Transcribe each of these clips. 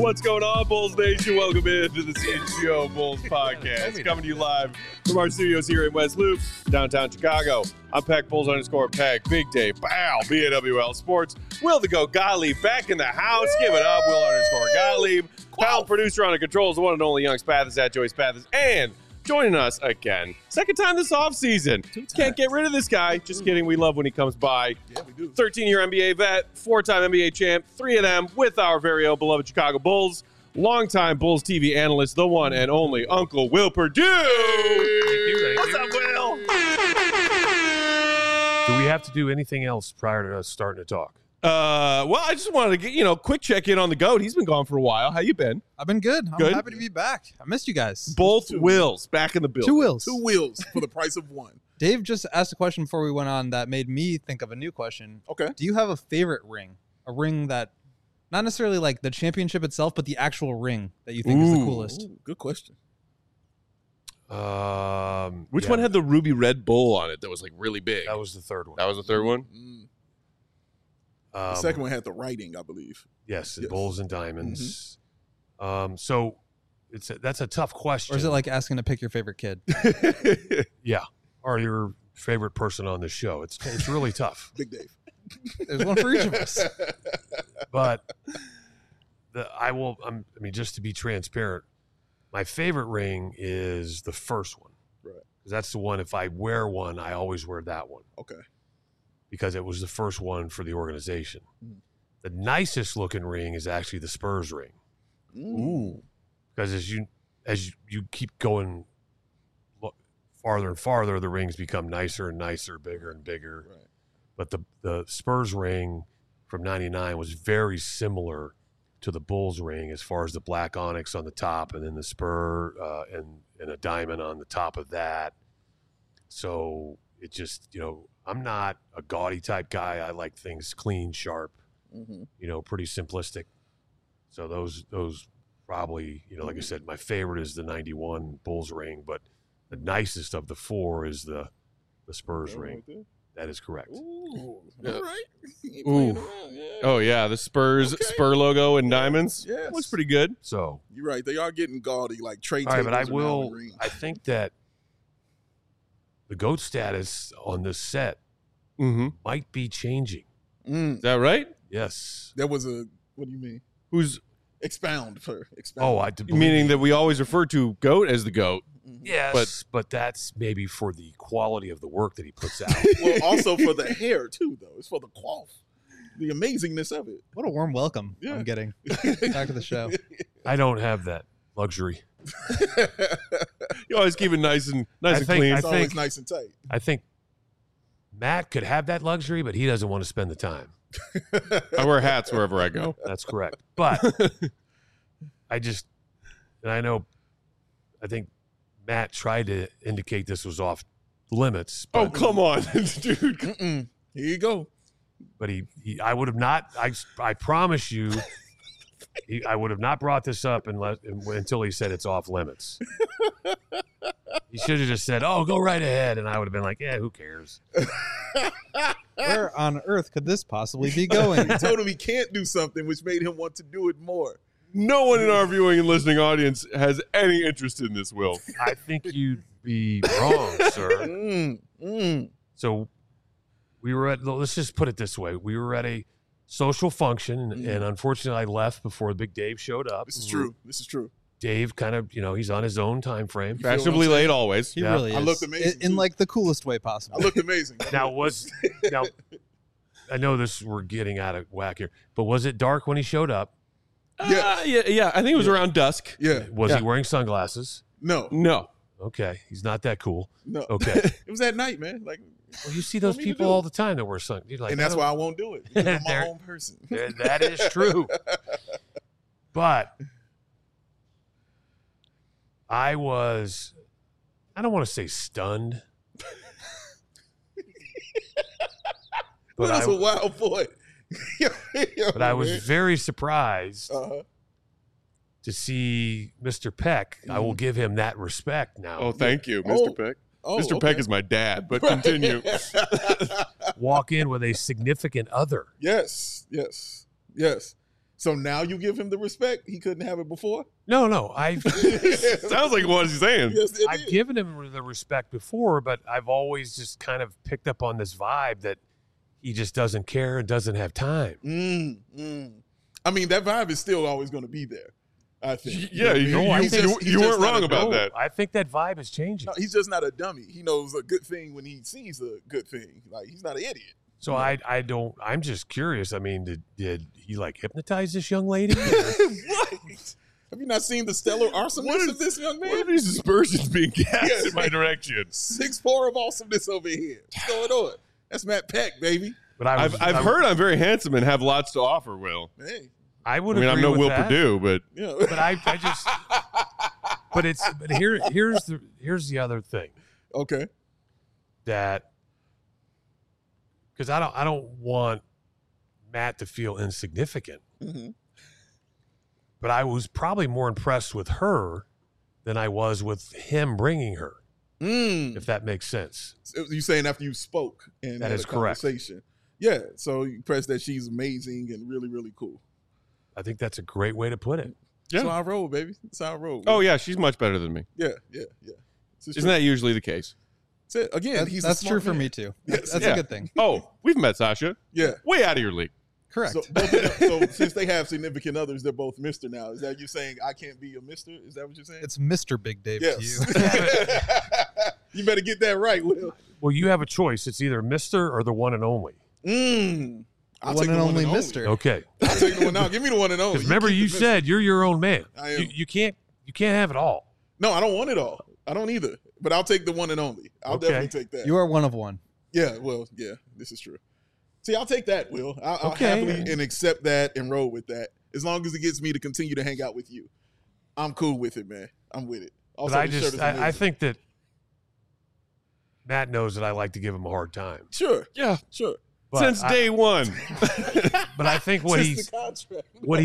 What's going on, Bulls Nation? Welcome into the CHGO Bulls podcast. Coming to you live from our studios here in West Loop, downtown Chicago. I'm Peck, Bulls_Peck, Big Dave, Bow, BAWL Sports. Will the Goat Gottlieb back in the house. Give it up, Will_Gottlieb. Pound producer on the controls, the one and only Young Spathis at Joey Spathis. And joining us again, second time this offseason. Can't get rid of this guy. Just kidding. We love when he comes by. Yeah, we do. 13-year NBA vet, 4-time NBA champ, 3 of them with our very own beloved Chicago Bulls. Longtime Bulls TV analyst, the one and only Uncle Will Perdue. Thank What's you. up, Will? Do we have to do anything else prior to us starting to talk? Well, I just wanted to get, quick check-in on the GOAT. He's been gone for a while. How you been? I've been good. I'm Good? happy to be back. I missed you guys. Both Wills back in the building. 2 Wills. 2 wheels for the price of 1. Dave just asked a question before we went on that made me think of a new question. Okay. Do you have a favorite ring? A ring that, not necessarily like the championship itself, but the actual ring that you think is the coolest? Ooh, good question. Which one had the ruby red bull on it that was like really big? That was the third one. That was the third one? The second one had the writing, I believe. Yes, Yes. Bulls and Diamonds. So that's a tough question. Or is it like asking to pick your favorite kid? Yeah, or your favorite person on the show? It's really tough. Big Dave. There's one for each of us. But just to be transparent, my favorite ring is the first one. Right. Because that's the one, if I wear one, I always wear that one. Okay. Because it was the first one for the organization. The nicest looking ring is actually the Spurs ring. Ooh. Because as you keep going farther and farther, the rings become nicer and nicer, bigger and bigger. Right. But the Spurs ring from '99 was very similar to the Bulls ring as far as the black onyx on the top, and then the spur and a diamond on the top of that. So it just, I'm not a gaudy type guy. I like things clean, sharp, pretty simplistic. So those probably, like I said, my favorite is the 91 Bulls ring, but the nicest of the 4 is the Spurs ring. That is correct. Ooh. Yeah. All right. Ooh. Ooh. Yeah. Oh, yeah, the Spurs Okay. Spur logo and diamonds. Yes. Looks pretty good. So, You're right. They are getting gaudy, like Trey all right, Taylor's but around I think that the GOAT status on this set Mm-hmm. might be changing. Is that right? Yes. That was a, what do you mean? Who's Expound. Oh, I do believe meaning you. that we always refer to GOAT as the GOAT. Yes, but that's maybe for the quality of the work that he puts out. Well, also for the hair, too, though. It's for the quaff. The amazingness of it. What a warm welcome Yeah. I'm getting. Back to the show. I don't have that luxury. You always keep it nice and I think- clean. It's always think- nice and tight. I think Matt could have that luxury, but he doesn't want to spend the time. I wear hats wherever I go. That's correct. But I think Matt tried to indicate this was off limits. Oh, But, come on, dude. Here you go. but I would have not. I promise you, I would have not brought this up until he said it's off limits. He should have just said, "Oh, go right ahead," and I would have been like, "Yeah, who cares?" Where on earth could this possibly be going? I told him he can't do something, which made him want to do it more. No one in our viewing and listening audience has any interest in this, Will. I think you'd be wrong, sir. So we were at. Let's just put it this way: we were at a social function, and unfortunately, I left before Big Dave showed up. This is true. This is true. Dave kind of, he's on his own time frame. feel what I'm Fashionably saying? late always. He Yeah. really is. I looked amazing, In too. like the coolest way possible. I looked amazing. Now I know we're getting out of whack here, but was it dark when he showed up? Yeah. I think it was around dusk. Yeah. Was Yeah. he wearing sunglasses? No. No. Okay, he's not that cool. No. Okay, It was at night, man. Like, well, you see those me to people do? all the time that wear sunglasses. You're like, and that's oh, why I won't do it. Because I'm my There- own person. that is true. But I don't want to say stunned. Well, that's a wild boy. But I was very surprised Uh-huh. to see Mr. Peck. I will give him that respect now. Oh, thank you, Mr. Oh. Peck. Oh, Mr. Peck is my dad, but continue. Walk in with a significant other. Yes. So now you give him the respect he couldn't have it before. No, Sounds like what he's saying. Yes, it I've is. given him the respect before, but I've always just kind of picked up on this vibe that he just doesn't care and doesn't have time. I mean, that vibe is still always going to be there. I think. Yeah, You know what I mean? you He's just weren't not wrong a about dummy. that. I think that vibe is changing. No, he's just not a dummy. He knows a good thing when he sees a good thing. Like, he's not an idiot. So I don't. I'm just curious. I mean, did he like hypnotize this young lady? What? Have you not seen the stellar awesomeness of this young What are man? these aspersions being cast Yes. in my direction? 6'4" of awesomeness over here. What's going on? That's Matt Peck, baby. But I've heard I'm very handsome and have lots to offer, Will. Hey, I would. I mean, I'm agree no with Will that, Perdue, but yeah. But I just. But here's the other thing Okay. that because I don't want Matt to feel insignificant. Mm-hmm. But I was probably more impressed with her than I was with him bringing her, if that makes sense. You saying after you spoke and That had is a correct. conversation. Yeah. So you press that she's amazing and really, really cool. I think that's a great way to put it. Yeah. That's how I roll, baby. That's how I roll. oh yeah, she's much better than me. Yeah. Isn't that usually the case? That's it. Again, he's a That's smart true for man. me too. Yes. That's Yeah. a good thing. Oh, we've met Sasha. Yeah. Way out of your league. Correct. So, both of them, so since they have significant others, they're both Mr. now. Is that you saying I can't be a Mr.? Is that what you're saying? It's Mr. Big Dave yes. to you. You better get that right, Will. Well, you have a choice. It's either Mr. or the one and only. I'll One take and the only Mr. Okay. I'll take the one now. Give me the one and only. Because remember, keep you the Mr. said you're your own man. I am. You can't have it all. No, I don't want it all. I don't either. But I'll take the one and only. I'll Okay. definitely take that. You are one of one. Yeah, well, yeah, this is true. See, I'll take that, Will. I'll Okay. happily and accept that and roll with that. As long as it gets me to continue to hang out with you. I'm cool with it, man. I'm with it. Also, But the shirt is I amazing. think that Matt knows that I like to give him a hard time. Sure, Yeah. sure. But Since day one. But I think what Since he's the contract. what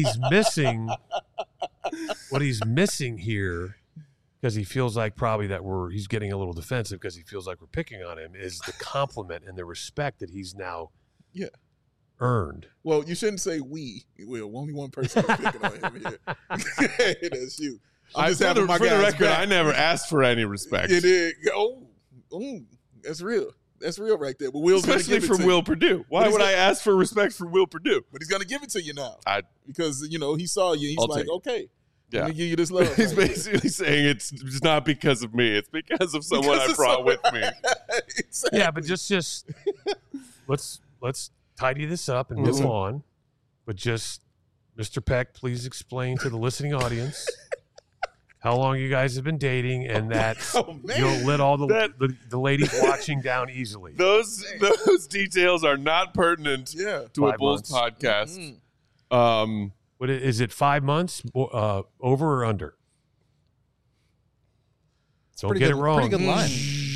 he's missing here, because he feels like probably that he's getting a little defensive because he feels like we're picking on him, is the compliment and the respect that he's now earned. Well, you shouldn't say we, Will. Only one person is picking on him here. That's you. I'm just having my for the guys record, back. I never asked for any respect. It is. Oh, that's real. That's real right there. But Will's gonna Especially give it from to Will you. Perdue. Why But he's would I gonna- ask for respect from Will Perdue? But he's gonna give it to you now I because he saw you. He's I'll like, take it. okay, Yeah. let me give you this love. He's right basically saying it's not because of me. It's because of someone Because I of brought with someone- me. Exactly. Yeah, but just let's tidy this up and move on. But just Mr. Peck, please explain to the listening audience how long you guys have been dating and that Oh, man. you'll let all That- the ladies watching down easily. Those details are not pertinent Yeah. to a 5 Bulls months. podcast. What is it? 5 months? Over or under? Don't Pretty get good, it wrong. Pretty good line.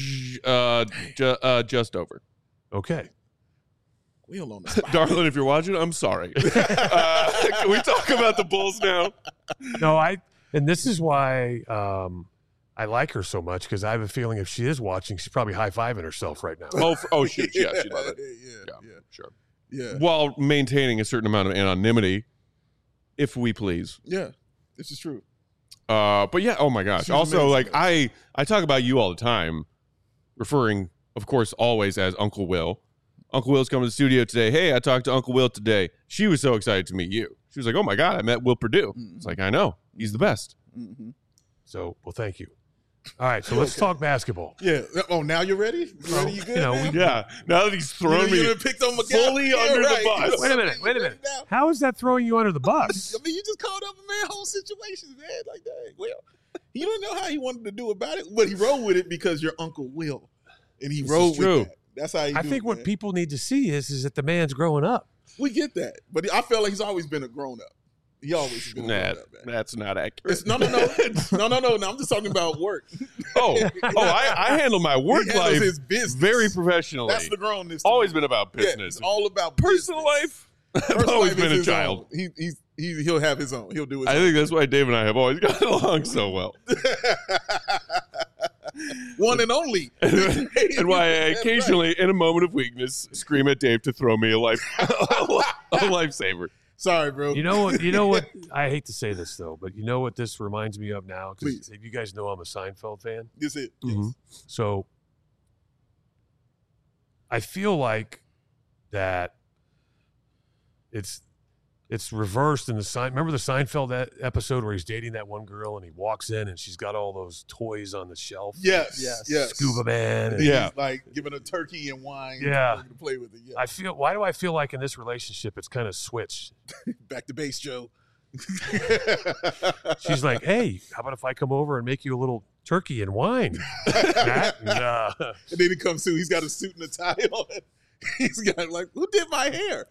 Just over. Okay. Will on the spot. Darling, if you're watching, I'm sorry. Can we talk about the Bulls now? No, and this is why I like her so much because I have a feeling if she is watching, she's probably high-fiving herself right now. Oh, shoot. Yeah, she'd love it. Yeah. Sure. Yeah. While maintaining a certain amount of anonymity, if we please. Yeah. This is true. But yeah, oh my gosh. She's Also, amazing, like I talk about you all the time, referring, of course, always as Uncle Will. Uncle Will's coming to the studio today. Hey, I talked to Uncle Will today. She was so excited to meet you. She was like, oh my God, I met Will Perdue. It's like, I know. He's the best. Mm-hmm. So, well, thank you. All right, so let's talk basketball. Yeah. Oh, now you're ready? You ready? You good? know, now? Yeah. Now that he's thrown You me done picked on my guy? fully Yeah, under right. the bus. Wait a minute. Now. How is that throwing you under the bus? I mean, you just called up a man whole situations, man. Like that. Well, you don't know how he wanted to do about it, but he rolled with it because you're Uncle Will, and he This rolled is true. with that. That's how he. I do think it, what man. people need to see is that the man's growing up. we get that, but I felt like he's always been a grown up. He always has been a grown up, man. That's not accurate. It's, no. I'm just talking about work. I handle my work He handles life his business very professionally. That's the grownness. to Always me. been about Yeah, business. it's all about Personal business. life, I've Personal always life been is a his child. own. He'll have his own. He'll do his I own. think that's why Dave and I have always gotten along so well. One and only. And why I That's occasionally, in a moment of weakness, scream at Dave to throw me a lifesaver. Sorry, bro. You know what? I hate to say this though, but you know what this reminds me of now? Please. Because you guys know I'm a Seinfeld fan. This it. Mm-hmm. Yes. So I feel like that it's reversed in the remember the Seinfeld episode where he's dating that one girl and he walks in and she's got all those toys on the shelf. Yes. Scuba Man. And He's like giving a turkey and wine. Yeah. To play with it. Yeah. Why do I feel like in this relationship it's kind of switched? Back to base, Joe. She's like, hey, how about if I come over and make you a little turkey and wine? Matt? And then he comes through. He's got a suit and a tie on. He's got like, who did my hair?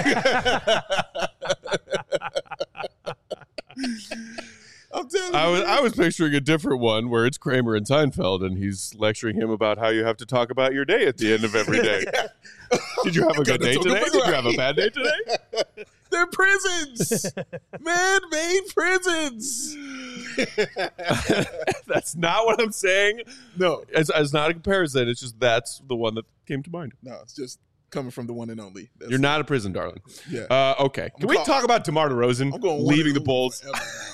I'm telling you. I was picturing a different one where it's Kramer and Seinfeld, and he's lecturing him about how you have to talk about your day at the end of every day. Did you have a good day today? Did you have a bad day today? They're prisons, man-made prisons. That's not what I'm saying. No, it's not a comparison. It's just that's the one that came to mind. no, it's just coming from the one and only. You're not a prison, darling. Yeah. Okay. Can we talk about DeMar DeRozan I'm going leaving the Bulls?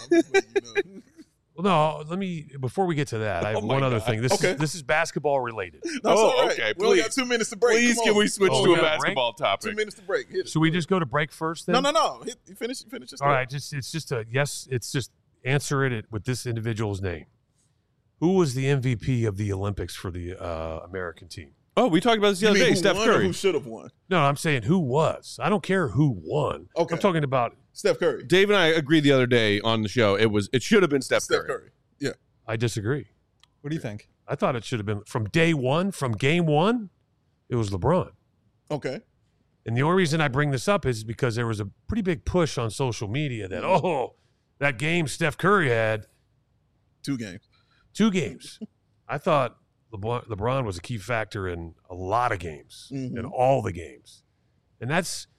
Well, no, before we get to that, I have one other thing. This is basketball related. Okay. We only got 2 minutes to break. Please, can we switch to we a got a basketball topic? 2 minutes to break. Hit it. Should we just go to break first then? No. You finish this. All right, it's just answer it with this individual's name. Who was the MVP of the Olympics for the American team? Oh, we talked about this the other day. Steph Curry. Who should have won? No, I'm saying who was. I don't care who won. Okay. I'm talking about. Steph Curry. Dave and I agreed the other day on the show. It should have been Steph Curry. Yeah. I disagree. What do you think? I thought it should have been from day one, from game one. It was LeBron. Okay. And the only reason I bring this up is because there was a pretty big push on social media that that game Steph Curry had 2 games. 2 games. I thought LeBron was a key factor in a lot of games, in all the games. And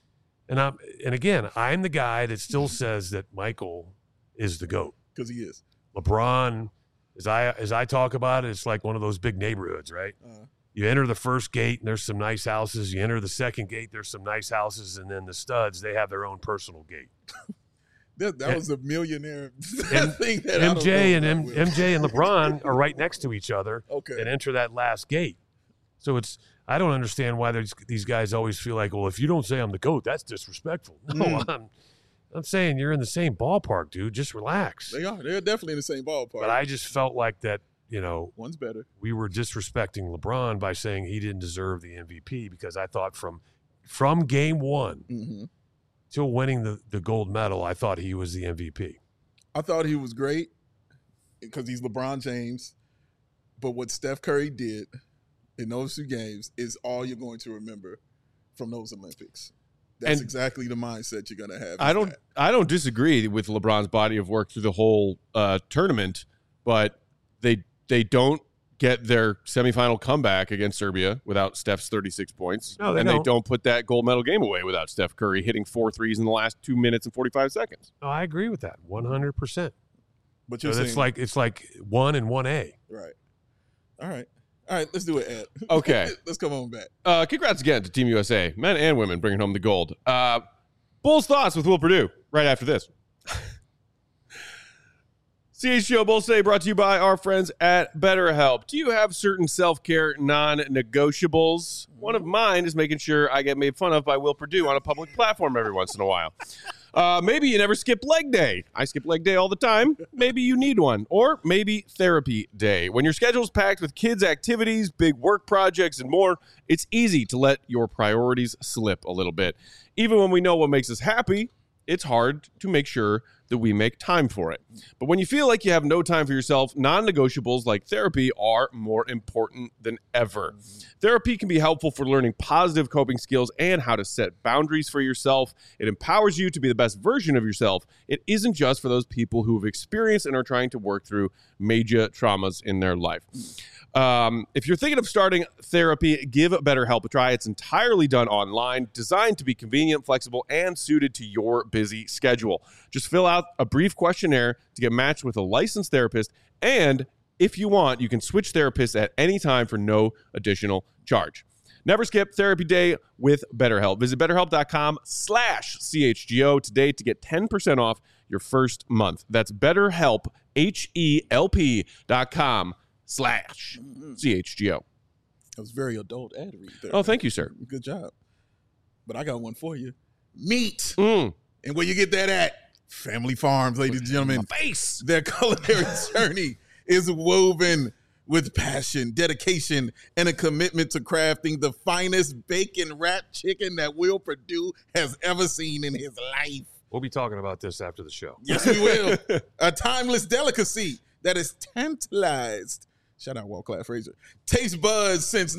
again, I'm the guy that still says that Michael is the GOAT. Because he is. LeBron, as I talk about it, it's like one of those big neighborhoods, right? You enter the first gate and there's some nice houses. You enter the second gate, there's some nice houses. And then the studs, they have their own personal gate. That was a millionaire thing. That MJ and LeBron are right next to each other and enter that last gate. So I don't understand why these guys always feel like, well, if you don't say I'm the GOAT, that's disrespectful. No, I'm saying you're in the same ballpark, dude. Just relax. They are. They're definitely in the same ballpark. But I just felt like that, one's better. We were disrespecting LeBron by saying he didn't deserve the MVP because I thought from game one till winning the gold medal, I thought he was the MVP. I thought he was great because he's LeBron James. But what Steph Curry did in those 2 games is all you're going to remember from those Olympics. That's exactly the mindset you're going to have. I don't disagree with LeBron's body of work through the whole tournament, but they don't get their semifinal comeback against Serbia without Steph's 36 points. No, they don't. They don't put that gold medal game away without Steph Curry hitting 4 threes in the last 2 minutes and 45 seconds. No, I agree with that 100%. But you're saying, it's like 1 and 1A. Right. All right, let's do it, Ed. Okay. Let's come on back. Congrats again to Team USA, men and women, bringing home the gold. Bulls Thoughts with Will Perdue right after this. CHGO Bulls Today brought to you by our friends at BetterHelp. Do you have certain self-care non-negotiables? One of mine is making sure I get made fun of by Will Perdue on a public platform every once in a while. Maybe you never skip leg day. I skip leg day all the time. Maybe you need one. Or maybe therapy day. When your schedule's packed with kids' activities, big work projects, and more, it's easy to let your priorities slip a little bit. Even when we know what makes us happy, it's hard to make sure that we make time for it. But when you feel like you have no time for yourself, non-negotiables like therapy are more important than ever. Therapy can be helpful for learning positive coping skills and how to set boundaries for yourself. It empowers you to be the best version of yourself. It isn't just for those people who have experienced and are trying to work through major traumas in their life. If you're thinking of starting therapy, give BetterHelp a try. It's entirely done online, designed to be convenient, flexible, and suited to your busy schedule. Just fill out a brief questionnaire to get matched with a licensed therapist, and if you want, you can switch therapists at any time for no additional charge. Never skip therapy day with BetterHelp. Visit BetterHelp.com/CHGO today to get 10% off your first month. That's BetterHelp, HELP.com/CHGO. That was very adult ad read there. Oh, thank you, sir. Good job. But I got one for you. Meat. Mm. And where you get that at? Family Farms, ladies and gentlemen. Face. Their culinary journey is woven with passion, dedication, and a commitment to crafting the finest bacon-wrapped chicken that Will Perdue has ever seen in his life. We'll be talking about this after the show. Yes, we will. A timeless delicacy that has tantalized, shout out Walt Class Fraser, taste buds since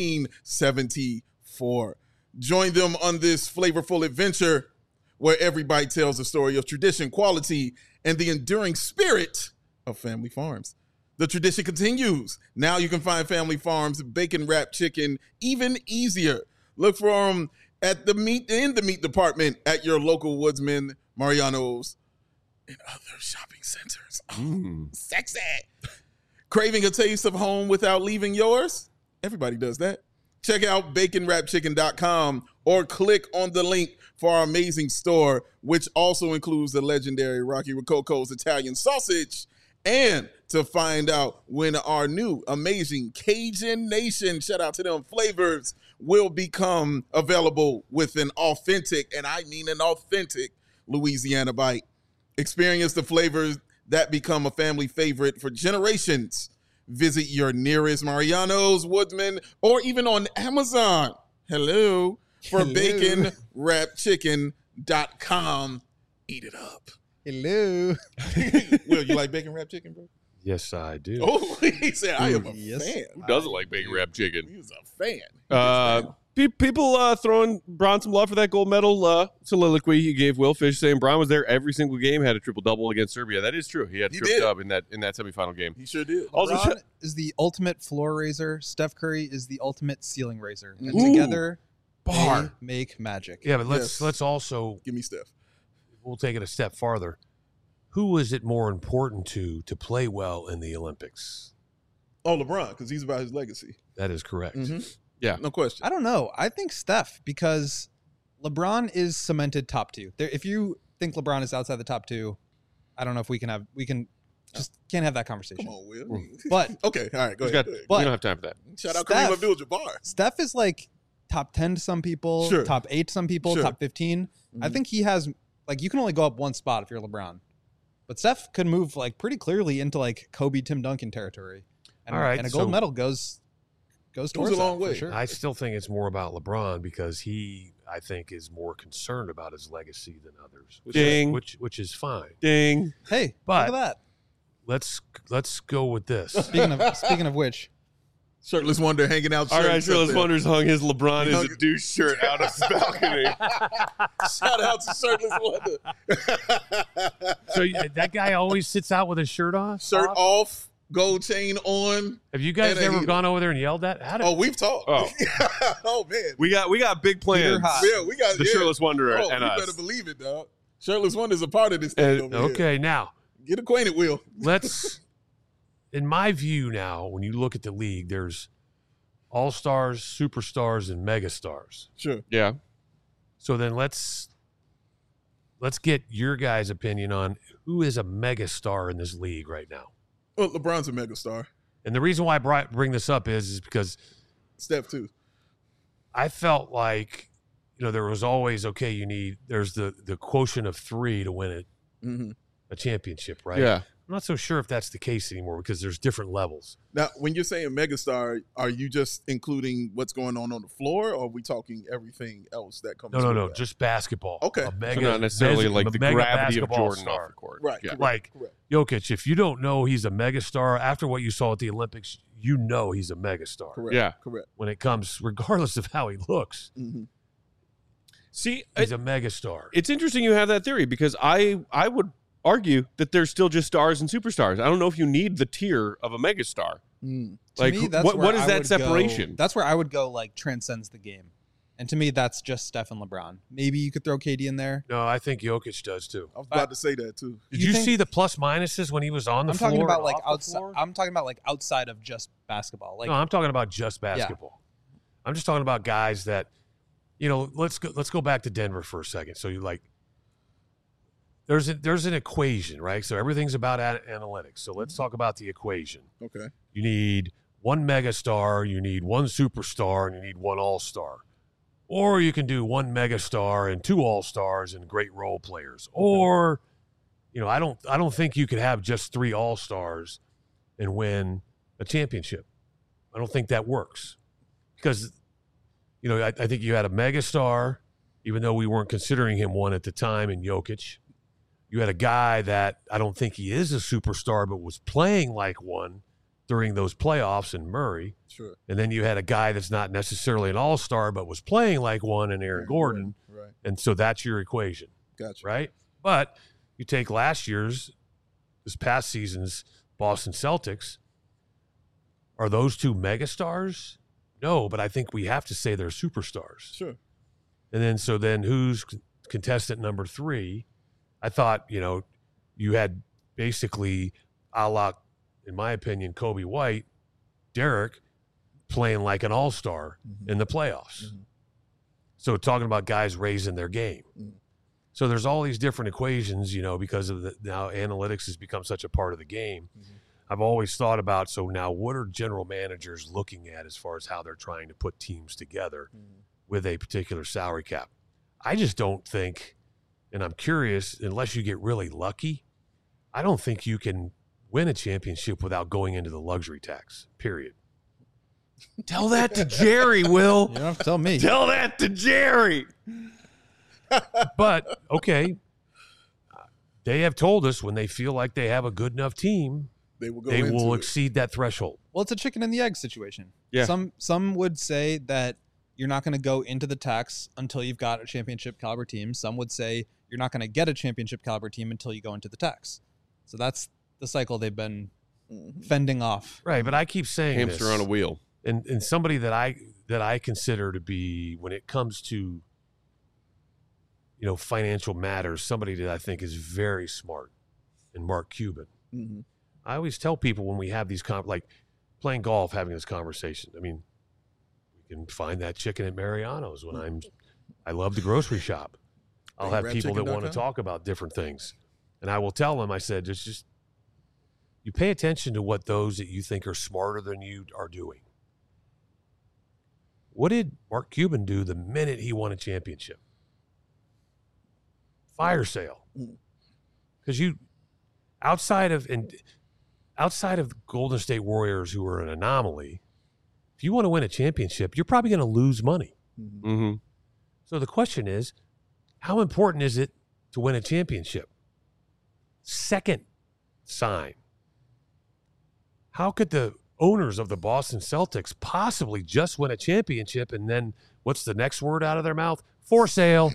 1974. Join them on this flavorful adventure where every bite tells a story of tradition, quality, and the enduring spirit of Family Farms. The tradition continues. Now you can find Family Farms bacon wrapped chicken even easier. Look for them in the meat department at your local Woodsman, Mariano's, and other shopping centers. Oh, sexy. Craving a taste of home without leaving yours? Everybody does that. Check out baconwrapchicken.com or click on the link for our amazing store, which also includes the legendary Rocky Rococo's Italian sausage. And to find out when our new amazing Cajun Nation, shout out to them, flavors will become available with an authentic, and I mean an authentic, Louisiana bite. Experience the flavors that become a family favorite for generations. Visit your nearest Mariano's, Woodsman, or even on Amazon. Hello. For baconwrapchicken.com. Eat it up. Hello. Will, you like bacon wrapped chicken, bro? Yes, I do. Oh, he said, I am a Yes. fan. Who doesn't like bacon wrapped chicken? He's a fan. People throwing Bron some love for that gold medal soliloquy he gave Will Fish, saying Bron was there every single game, had a triple-double against Serbia. That is true. He had a triple-dub in that semifinal game. He sure did. Also, LeBron is the ultimate floor raiser. Steph Curry is the ultimate ceiling raiser. And Ooh. together, Bar. they make magic. Yeah, but Yes. let's also, Give me Steph. we'll take it a step farther. Who is it more important to play well in the Olympics? Oh, LeBron, because he's about his legacy. That is correct. Yeah. No question. I don't know. I think Steph, because LeBron is cemented top two. If you think LeBron is outside the top two, I don't know if we can't have that conversation. Come on, Will. But Okay, all right, go He's ahead. got- Go ahead. But- we don't have time for that. Shout out Steph- Kareem Abdul-Jabbar. Steph is like top 10 to some people, Sure. top 8 to some people, Sure. top 15. I Mhm. think he has, like, you can only go up one spot if you're LeBron. But Steph could move, like, pretty clearly into, like, Kobe, Tim Duncan territory. And, All right, and a gold so- medal goes towards a long that, for way. sure. I still think it's more about LeBron because he, I think, is more concerned about his legacy than others, Ding. which is fine. Ding. Hey, But- look at Let's go with this. that. Speaking of which, Shirtless Wonder hanging out. All right, shirtless Shirtless up there. Wonders hung his LeBron is a douche shirt out of his balcony. Shout out to Shirtless Wonder. So that guy always sits out with his shirt off. Shirt off, gold chain on. Have you guys And a ever heater. gone over there and yelled at? How did, Oh, we've talked. Oh. Oh man. We got big plans. Peter Hot. Yeah, we got The yeah. Shirtless Wanderer Oh, and you us. better believe it, dog. Shirtless Wonder's a part of this thing over here. okay, now Get acquainted, Will. let's. In my view, now when you look at the league, there's all-stars, superstars, and megastars. Sure. Yeah. So then let's get your guys' opinion on who is a megastar in this league right now. Well, LeBron's a megastar. And the reason why I bring this up is because Steph too. I felt like, there was always, there's the quotient of 3 to win a championship, right? Yeah. I'm not so sure if that's the case anymore because there's different levels. Now, when you're saying megastar, are you just including what's going on the floor, or are we talking everything else that comes? with No, that? just basketball. Okay. A So mega, not necessarily like the mega gravity of basketball Jordan star. off the court. Right. Yeah. Correct, Like correct. Jokic, if you don't know he's a megastar, after what you saw at the Olympics, you know he's a megastar. Correct. Yeah. Correct. When it comes, regardless of how he looks, Mm-hmm. See, he's a megastar. it's interesting you have that theory because I would argue that there's still just stars and superstars. I don't know if you need the tier of a megastar. Mm. to Like, me, that's what where is I that would go- separation? that's where I would go, like, transcends the game. And to me, that's just Steph and LeBron. Maybe you could throw KD in there. No, I think Jokic does too. I was about to say that too. Did You you think- see the plus minuses when he was on the I'm floor? talking about and like off the outside. floor? I'm talking about like outside of just basketball. Like No, I'm talking about just basketball. I'm just talking about guys that, let's go back to Denver for a second. So there's an equation, right? So everything's about analytics. So let's talk about the equation. Okay. You need one megastar, you need one superstar, and you need one all-star. Or you can do one megastar and two all-stars and great role players. Or, I don't think you could have just three all-stars and win a championship. I don't think that works. Because, I think you had a megastar, even though we weren't considering him one at the time, in Jokic. You had a guy that I don't think he is a superstar, but was playing like one during those playoffs in Murray. Sure. And then you had a guy that's not necessarily an all-star, but was playing like one in Aaron Gordon. Right. And so that's your equation. Gotcha. Right? But you take this past season's Boston Celtics, are those two megastars? No, but I think we have to say they're superstars. Sure. And then who's contestant number 3? I thought, you had basically a la, in my opinion, Kobe White, Derek playing like an all-star in the playoffs. Mm-hmm. So talking about guys raising their game. Mm-hmm. So there's all these different equations, because of now analytics has become such a part of the game. Mm-hmm. I've always thought about, so now what are general managers looking at as far as how they're trying to put teams together with a particular salary cap? I just don't think, and I'm curious, unless you get really lucky, I don't think you can win a championship without going into the luxury tax, period. Tell that to Jerry, Will. You don't have to tell me. Tell that to Jerry. But, okay, they have told us when they feel like they have a good enough team, they will exceed that threshold. Well, it's a chicken and the egg situation. Yeah. Some would say that you're not going to go into the tax until you've got a championship caliber team. Some would say you're not going to get a championship caliber team until you go into the tax. So that's the cycle they've been fending off. Right, but I keep saying hamster this, on a wheel. And somebody that I consider to be, when it comes to financial matters, somebody that I think is very smart, and Mark Cuban. Mm-hmm. I always tell people when we have these like playing golf, having this conversation. I mean, we can find that chicken at Mariano's when I love the grocery shop. I'll have people that want to talk about different things, and I will tell them. I said, just you pay attention to what those that you think are smarter than you are doing. What did Mark Cuban do the minute he won a championship? Fire sale. Because outside of the Golden State Warriors, who are an anomaly, if you want to win a championship, you're probably going to lose money. Mm-hmm. So the question is, how important is it to win a championship? Second sign. How could the owners of the Boston Celtics possibly just win a championship and then what's the next word out of their mouth? For sale.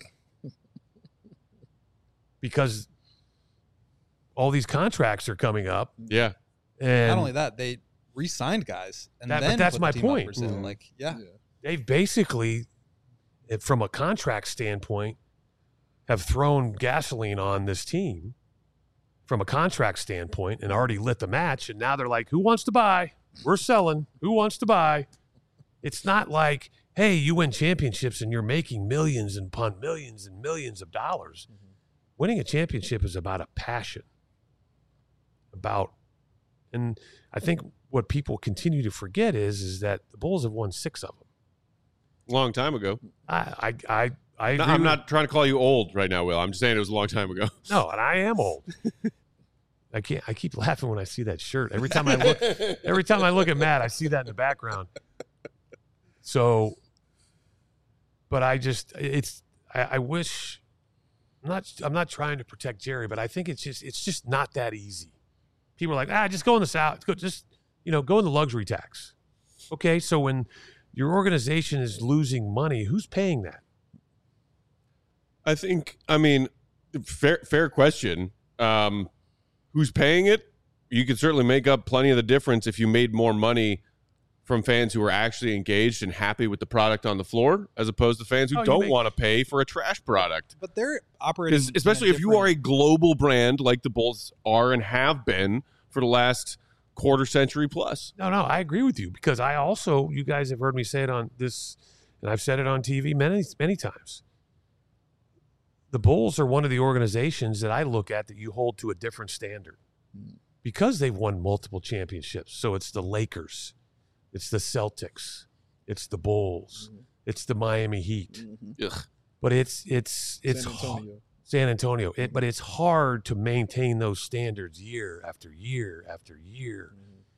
Because all these contracts are coming up. Yeah. And not only that, they re-signed guys. And but then that's put my the team point. up for sale. Mm-hmm. Like, yeah. They've basically, from a contract standpoint, have thrown gasoline on this team from a contract standpoint and already lit the match. And now they're like, who wants to buy? We're selling. Who wants to buy? It's not like, hey, you win championships and you're making millions and millions of dollars. Mm-hmm. Winning a championship is about a passion. And I think what people continue to forget is that the Bulls have won 6 of them. Long time ago. I agree. I'm not trying to call you old right now, Will. I'm just saying it was a long time ago. No, and I am old. I keep laughing when I see that shirt. Every time I look at Matt, I see that in the background. So, but I wish. I'm not trying to protect Jerry, but I think it's just not that easy. People are like, just go in the South. Go in the luxury tax. Okay, so when your organization is losing money, who's paying that? Fair question. Who's paying it? You could certainly make up plenty of the difference if you made more money from fans who are actually engaged and happy with the product on the floor, as opposed to fans who don't want to pay for a trash product. But they're operating, especially if you are a global brand like the Bulls are and have been for the last quarter century plus. No, I agree with you because you guys have heard me say it on this, and I've said it on TV many, many times. The Bulls are one of the organizations that I look at that you hold to a different standard because they've won multiple championships. So it's the Lakers, it's the Celtics, it's the Bulls, it's the Miami Heat. But it's San Antonio. But it's hard to maintain those standards year after year after year.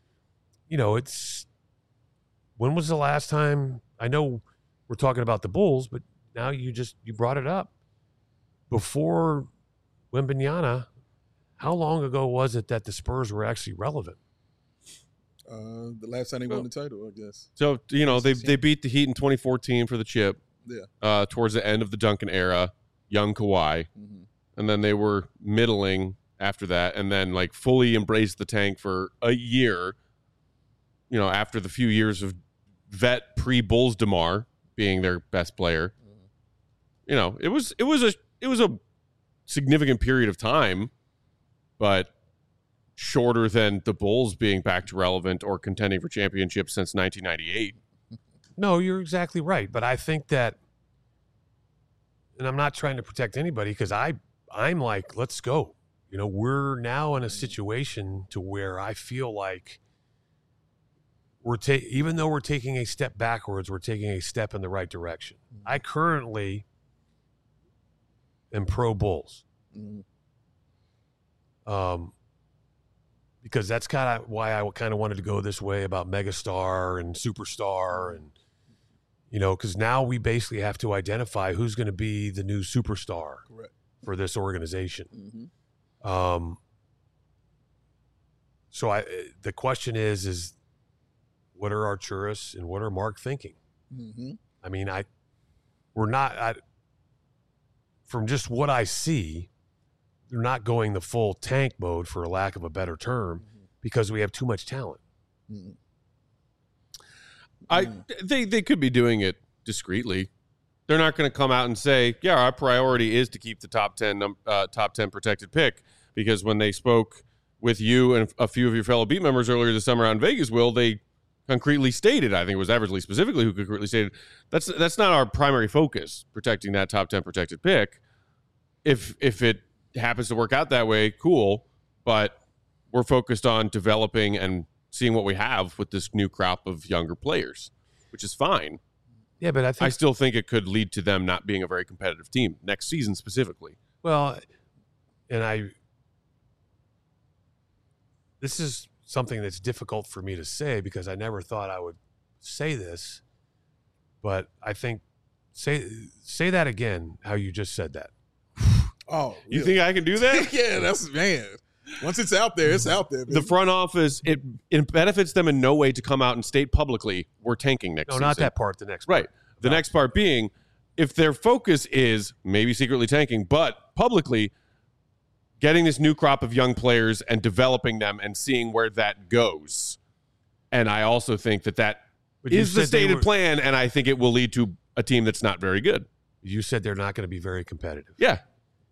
When was the last time? I know we're talking about the Bulls, but now you brought it up. Before Wembanyama, how long ago was it that the Spurs were actually relevant? The last time they won the title, I guess. So, they beat the Heat in 2014 for the chip. Yeah. Towards the end of the Duncan era, young Kawhi. And then they were middling after that and then like fully embraced the tank for a year, after the few years of vet pre-Bulls DeMar being their best player. It was a significant period of time, but shorter than the Bulls being back to relevant or contending for championships since 1998. No, you're exactly right. But I think that, and I'm not trying to protect anybody because I'm like, let's go. We're now in a situation to where I feel like even though we're taking a step backwards, we're taking a step in the right direction. I currently am pro Bulls. Because that's kind of why I kind of wanted to go this way about megastar and superstar and, because now we basically have to identify who's going to be the new superstar for this organization. So the question is what are Arturas and what are Mark thinking? I mean, from just what I see, they're not going the full tank mode, for lack of a better term, because we have too much talent. They could be doing it discreetly. They're not going to come out and say, "Yeah, our priority is to keep the top 10 protected pick," because when they spoke with you and a few of your fellow beat members earlier this summer out in Vegas, they concretely stated, I think it was Eversley specifically who concretely stated, that's not our primary focus, protecting that top 10 protected pick. If it happens to work out that way, cool, but we're focused on developing and seeing what we have with this new crop of younger players, which is fine. Yeah, but I still think it could lead to them not being a very competitive team next season specifically. Well, this is something that's difficult for me to say because I never thought I would say this, but I think say that again, how you just said that. Oh, you think I can do that? Yeah, man. Once it's out there, it's out there. Baby. The front office, it benefits them in no way to come out and state publicly we're tanking next season. No, not that part. The next part. Right. The next part being, if their focus is maybe secretly tanking, but publicly getting this new crop of young players and developing them and seeing where that goes. And I also think that is the stated plan, and I think it will lead to a team that's not very good. You said they're not going to be very competitive. Yeah.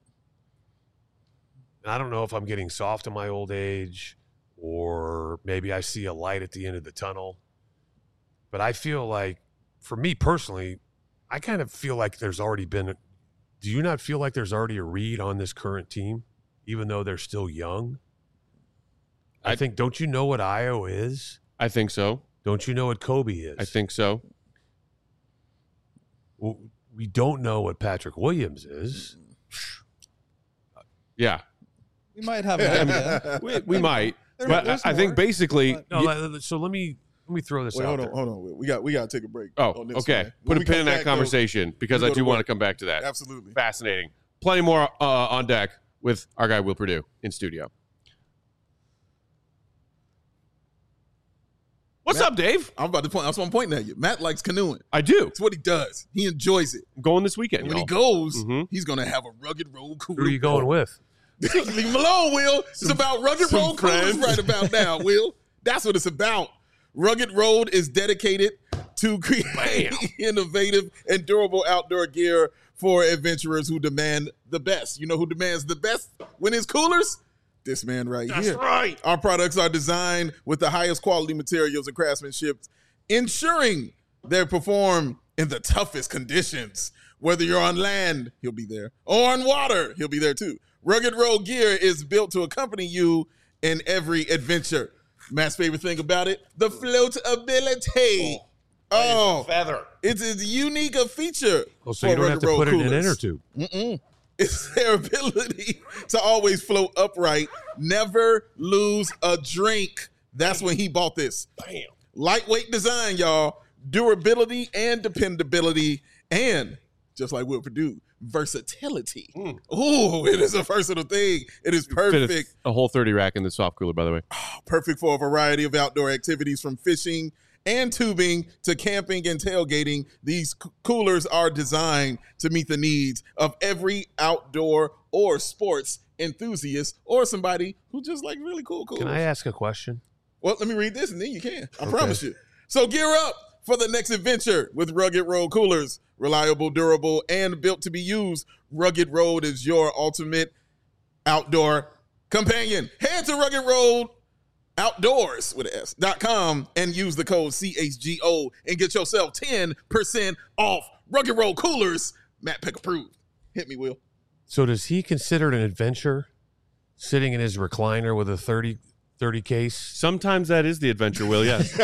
I don't know if I'm getting soft in my old age or maybe I see a light at the end of the tunnel. But I feel like, for me personally, I kind of feel like there's already been do you not feel like there's already a read on this current team, even though they're still young? I think, don't you know what Io is? I think so. Don't you know what Kobe is? I think so. Well, we don't know what Patrick Williams is. Yeah. We might have an idea. we might. But I think basically. So let me throw this out there. Hold on. We got to take a break. Oh, okay. Put a pin in that conversation because I do want to come back to that. Absolutely. Fascinating. Plenty more on deck with our guy Will Perdue in studio. What's up, Dave? I'm about to point. That's what I'm pointing at you. Matt likes canoeing. I do. It's what he does. He enjoys it. I'm going this weekend. And when he goes, he's going to have a rugged road cooler. Who are you going with? Leave him alone, Will. It's about rugged road coolers right about now, Will. That's what it's about. Rugged Road is dedicated to create innovative and durable outdoor gear for adventurers who demand the best. You know who demands the best when it's coolers? This man right That's here. right. Our products are designed with the highest quality materials and craftsmanship, ensuring they perform in the toughest conditions. Whether you're on land, he'll be there, or on water, he'll be there too. Rugged Road gear is built to accompany you in every adventure. Matt's favorite thing about it, the floatability. Oh, Feather. it's as unique a feature. Oh, so for you don't have Rugged to Road put it in an coolers. inner tube. It's their ability to always float upright, never lose a drink. That's when he bought this. Bam. Lightweight design, y'all. Durability and dependability. And just like Will Purdue, versatility. Ooh, it is a versatile thing. It is perfect. A whole 30 rack in the soft cooler, by the way. Perfect for a variety of outdoor activities from fishing and tubing to camping and tailgating. These coolers are designed to meet the needs of every outdoor or sports enthusiast or somebody who just like really cool coolers. Can I ask a question? Well, let me read this and then you can. I promise you. So gear up for the next adventure with Rugged Road coolers. Reliable, durable, and built to be used. Rugged Road is your ultimate outdoor companion. Head to Rugged Road Outdoors with an S.com and use the code CHGO and get yourself 10% off. Rugged Road coolers. Matt Peck approved. Hit me, Will. So does he consider it an adventure sitting in his recliner with a 30 case? Sometimes that is the adventure, Will, yes.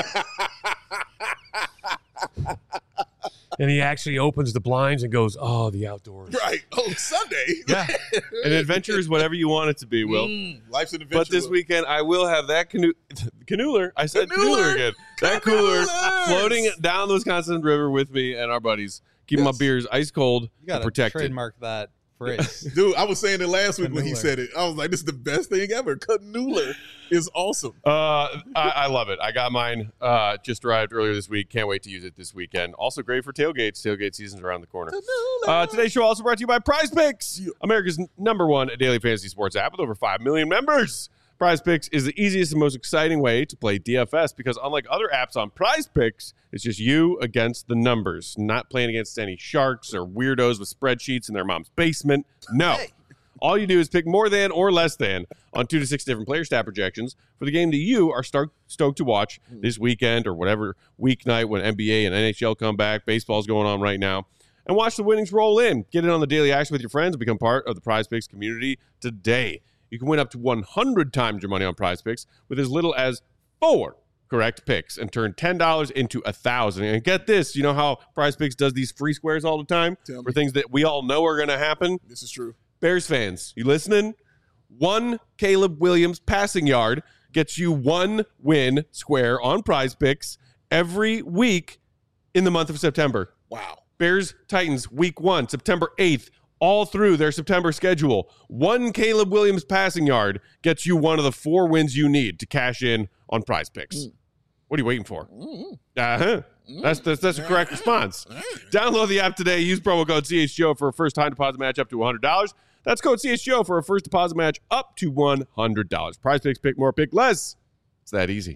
And he actually opens the blinds and goes, "Oh, the outdoors." Right. Oh, Sunday. Yeah. An adventure is whatever you want it to be, Will. Life's an adventure. But this Will. weekend, I will have that canoeler. I said Canoeler. canoeler again. That cooler Canoelers. floating down the Wisconsin River with me and our buddies, keeping Yes. my beers ice cold You and got to protected. trademark that phrase. Dude, I was saying it last week when he Canoeler. said it. I was like, this is the best thing ever. Canoeler is awesome. I love it. I got mine just arrived earlier this week. Can't wait to use it this weekend. Also great for tailgates. Tailgate season's around the corner. Today's show also brought to you by Prize Picks, America's #1 daily fantasy sports app with over 5 million members. Prize Picks is the easiest and most exciting way to play DFS because unlike other apps on Prize Picks, it's just you against the numbers, not playing against any sharks or weirdos with spreadsheets in their mom's basement. No. All you do is pick more than or less than on 2 to 6 different player stat projections for the game that you are stoked to watch this weekend or whatever weeknight when NBA and NHL come back. Baseball's going on right now. And watch the winnings roll in. Get in on the daily action with your friends and become part of the Prize Picks community today. You can win up to 100 times your money on Prize Picks with as little as 4 correct picks and turn $10 into $1,000. And get this, you know how Prize Picks does these free squares all the time Tell me. for things that we all know are going to happen? This is true. Bears fans, you listening? 1 Caleb Williams passing yard gets you 1 win square on Prize Picks every week in the month of September. Wow. Bears Titans week 1, September 8th, all through their September schedule. 1 Caleb Williams passing yard gets you one of the 4 wins you need to cash in on Prize Picks. What are you waiting for? That's the correct response. Download the app today. Use promo code CHGO for a first time deposit match up to $100. That's code CHGO for a first deposit match up to $100. Prize Picks, pick more, pick less. It's that easy.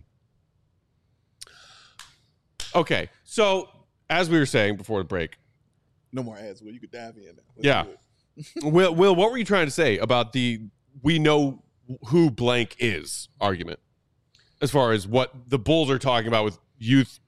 Okay, so as we were saying before the break, No more ads, Will. You could dive in now. Let's Yeah. do it. Will, what were you trying to say about the we know who blank is argument as far as what the Bulls are talking about with youth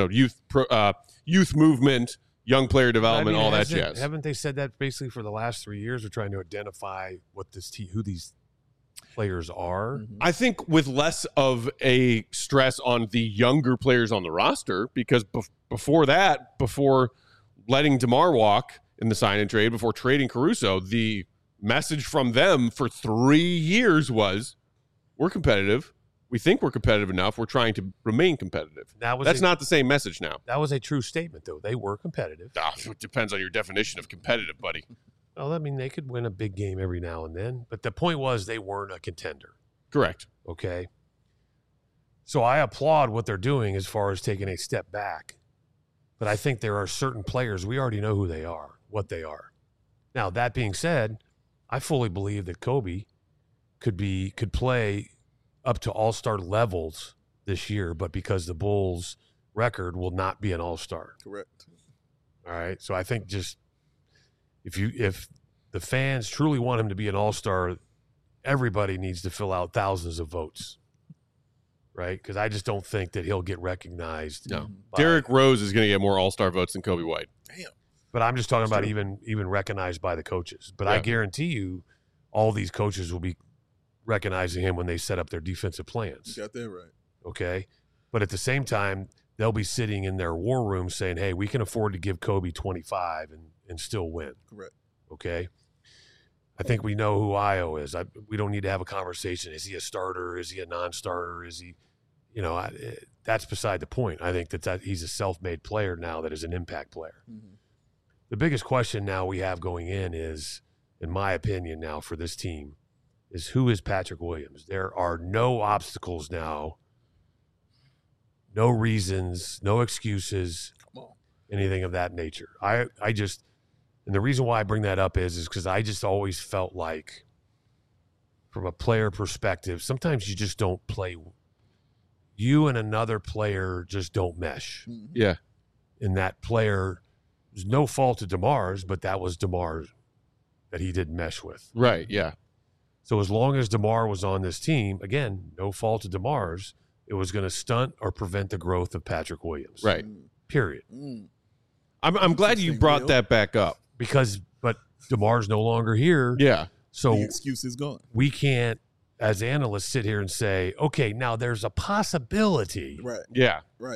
movement, young player development, all that jazz? Haven't they said that basically for the last 3 years? We're trying to identify what who these players are. I think with less of a stress on the younger players on the roster, because before that, before letting DeMar walk in the sign and trade, before trading Caruso, the message from them for 3 years was, we're competitive. We think we're competitive enough. We're trying to remain competitive. That's not the same message now. That was a true statement, though. They were competitive. It depends on your definition of competitive, buddy. Well, I mean, they could win a big game every now and then, but the point was they weren't a contender. Correct. Okay. So I applaud what they're doing as far as taking a step back. But I think there are certain players, we already know who they are, what they are. Now, that being said, I fully believe that Kobe could play up to all-star levels this year, but because the Bulls' record will not be an all-star. Correct. All right. So I think just if the fans truly want him to be an all-star everybody needs to fill out thousands of votes, right? Because I just don't think that he'll get recognized. No. Derrick Rose is going to get more All-Star votes than Kobe White. Damn. But I'm just talking about even recognized by the coaches. But I guarantee you all these coaches will be recognizing him when they set up their defensive plans. You got that right. Okay? But at the same time, they'll be sitting in their war room saying, hey, we can afford to give Kobe 25 and still win. Correct. Okay? I think we know who Ayo is. We don't need to have a conversation. Is he a starter? Is he a non-starter? Is he, that's beside the point. I think that he's a self-made player now that is an impact player. Mm-hmm. The biggest question now we have going in is, in my opinion now for this team, is who is Patrick Williams? There are no obstacles now, no reasons, no excuses, anything of that nature. I just, and the reason why I bring that up is because I just always felt like, from a player perspective, sometimes you just don't play. You and another player just don't mesh. Yeah. And that player, there's no fault of DeMar's, but that was DeMar that he didn't mesh with. Right, yeah. So as long as DeMar was on this team, again, no fault of DeMar's, it was going to stunt or prevent the growth of Patrick Williams. Right. Period. I'm glad you brought that back up. But DeMar's no longer here. Yeah. So the excuse is gone. We can't, as analysts, sit here and say, okay, now there's a possibility. Right. Yeah. Right.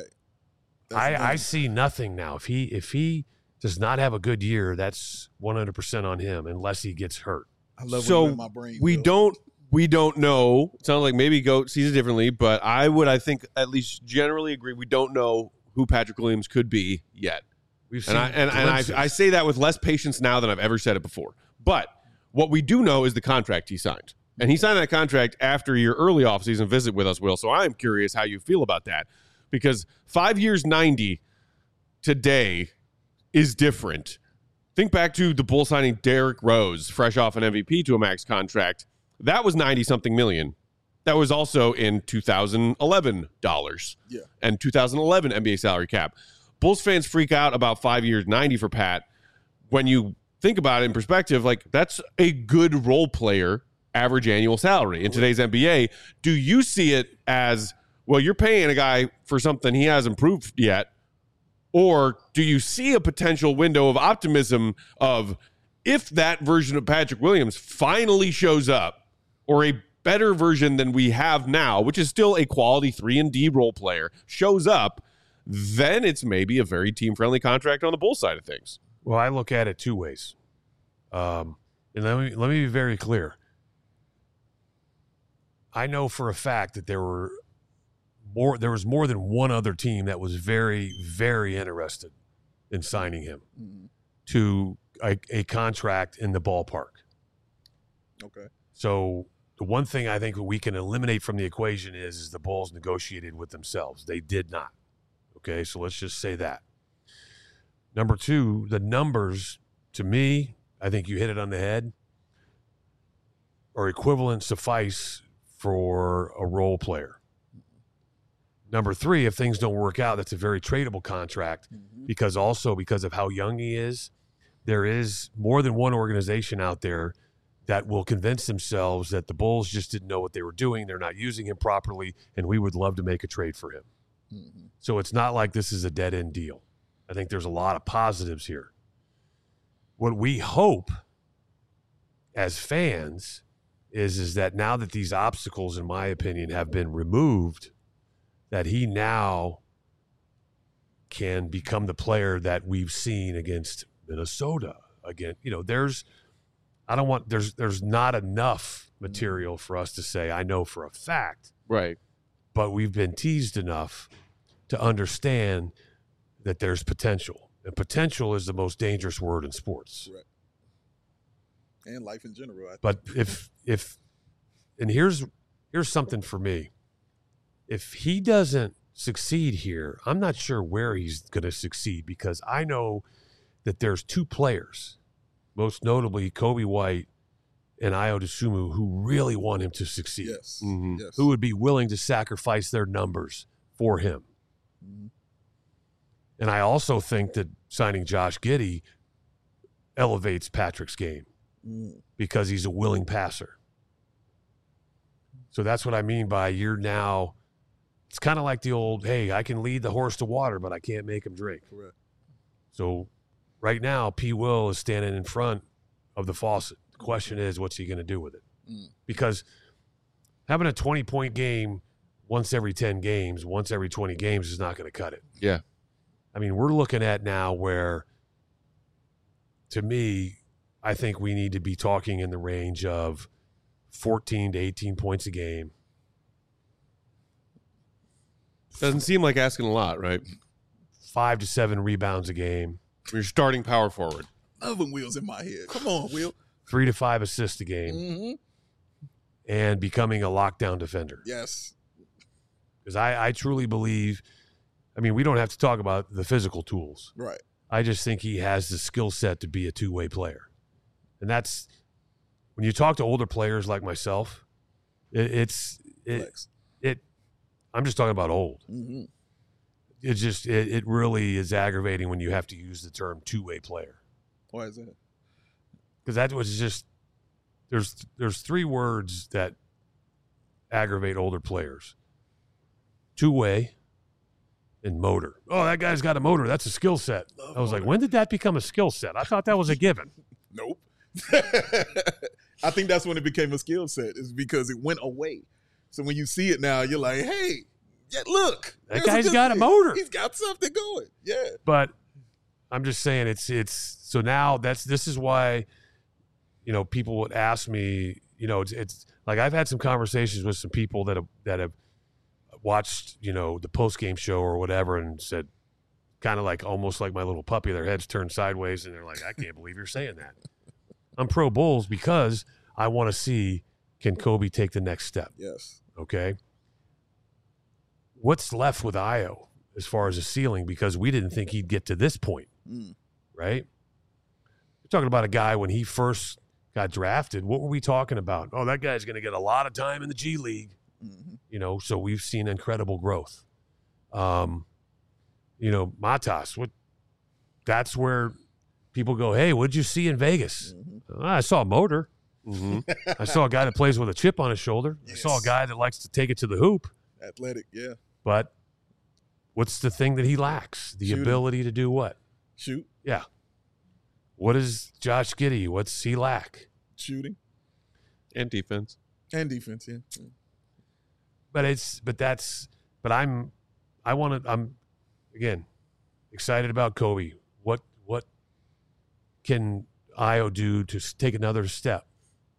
I see nothing now. If he does not have a good year, that's 100% on him unless he gets hurt. I love so when you're in my brain, we Bill. don't know. It sounds like maybe Goat sees it differently, but I think at least generally agree we don't know who Patrick Williams could be yet. We've seen I say that with less patience now than I've ever said it before. But what we do know is the contract he signed. And he signed that contract after your early offseason visit with us, Will. So I'm curious how you feel about that. Because 5 years, 90 today is different. Think back to the Bulls signing Derrick Rose, fresh off an MVP to a max contract. That was 90-something million. That was also in 2011 dollars. Yeah. And 2011 NBA salary cap. Bulls fans freak out about 5 years, 90 for Pat. When you think about it in perspective, like, that's a good role player average annual salary in today's NBA. Do you see it as, well, you're paying a guy for something he hasn't proved yet? Or do you see a potential window of optimism of, if that version of Patrick Williams finally shows up, or a better version than we have now, which is still a quality 3-and-D role player, shows up, then it's maybe a very team-friendly contract on the Bulls side of things. Well, I look at it two ways. And let me be very clear. I know for a fact that there was more than one other team that was very, very interested in signing him to a contract in the ballpark. Okay. So the one thing I think we can eliminate from the equation is the Bulls negotiated with themselves. They did not. Okay, so let's just say that. Number two, the numbers, to me, I think you hit it on the head, are equivalent, suffice for a role player. Number three, if things don't work out, that's a very tradable contract because of how young he is, there is more than one organization out there that will convince themselves that the Bulls just didn't know what they were doing, they're not using him properly, and we would love to make a trade for him. So it's not like this is a dead-end deal. I think there's a lot of positives here. What we hope as fans is that now that these obstacles, in my opinion, have been removed, that he now can become the player that we've seen against Minnesota. Again, there's not enough material for us to say, I know for a fact. Right. But we've been teased enough to understand that there's potential. And potential is the most dangerous word in sports. Right. And life in general. I think. But if and here's something for me. If he doesn't succeed here, I'm not sure where he's going to succeed, because I know that there's two players, most notably Kobe White and Ayo Dosunmu, who really want him to succeed. Yes. Yes. Who would be willing to sacrifice their numbers for him. And I also think that signing Josh Giddey elevates Patrick's game because he's a willing passer. So that's what I mean by you're now. It's kind of like the old, hey, I can lead the horse to water, but I can't make him drink. Correct. So right now, P. Will is standing in front of the faucet. The question is, what's he going to do with it? Because having a 20-point game once every 10 games, once every 20 games is not going to cut it. Yeah. I mean, we're looking at now where, to me, I think we need to be talking in the range of 14 to 18 points a game. Doesn't seem like asking a lot, right? 5 to 7 rebounds a game. You're starting power forward. Loving Will's in my head. Come on, Will. 3 to 5 assists a game. Mm-hmm. And becoming a lockdown defender. Yes. Because I truly believe, I mean, we don't have to talk about the physical tools. Right. I just think he has the skill set to be a two-way player. And that's, when you talk to older players like myself, I'm just talking about old. Mm-hmm. It really is aggravating when you have to use the term two-way player. Why is that? Because that was just, there's 3 words that aggravate older players. Two-way and motor. Oh, that guy's got a motor. That's a skill set. I was like, when did that become a skill set? I thought that was a given. Nope. I think that's when it became a skill set, is because it went away. So when you see it now, you're like, hey, yeah, look. That guy's got a motor. He's got something going. Yeah. But I'm just saying it's so now this is why, people would ask me, it's like I've had some conversations with some people that have watched, the post-game show or whatever and said, kind of like almost like my little puppy, their heads turned sideways and they're like, I can't believe you're saying that. I'm pro Bulls because I want to see, can Kobe take the next step? Yes. Okay. What's left with Ayo as far as a ceiling? Because we didn't think he'd get to this point, right? We're talking about a guy when he first got drafted. What were we talking about? Oh, that guy's going to get a lot of time in the G League. Mm-hmm. So we've seen incredible growth. Matas, that's where people go, hey, what'd you see in Vegas? Mm-hmm. I saw a motor. Mm-hmm. I saw a guy that plays with a chip on his shoulder. Yes. I saw a guy that likes to take it to the hoop. Athletic, yeah. But what's the thing that he lacks? The ability to do what? Shoot. Yeah. What is Josh Giddey? What's he lack? Shooting. And defense. And defense, yeah. I'm again excited about Kobe. What can Ayo do to take another step?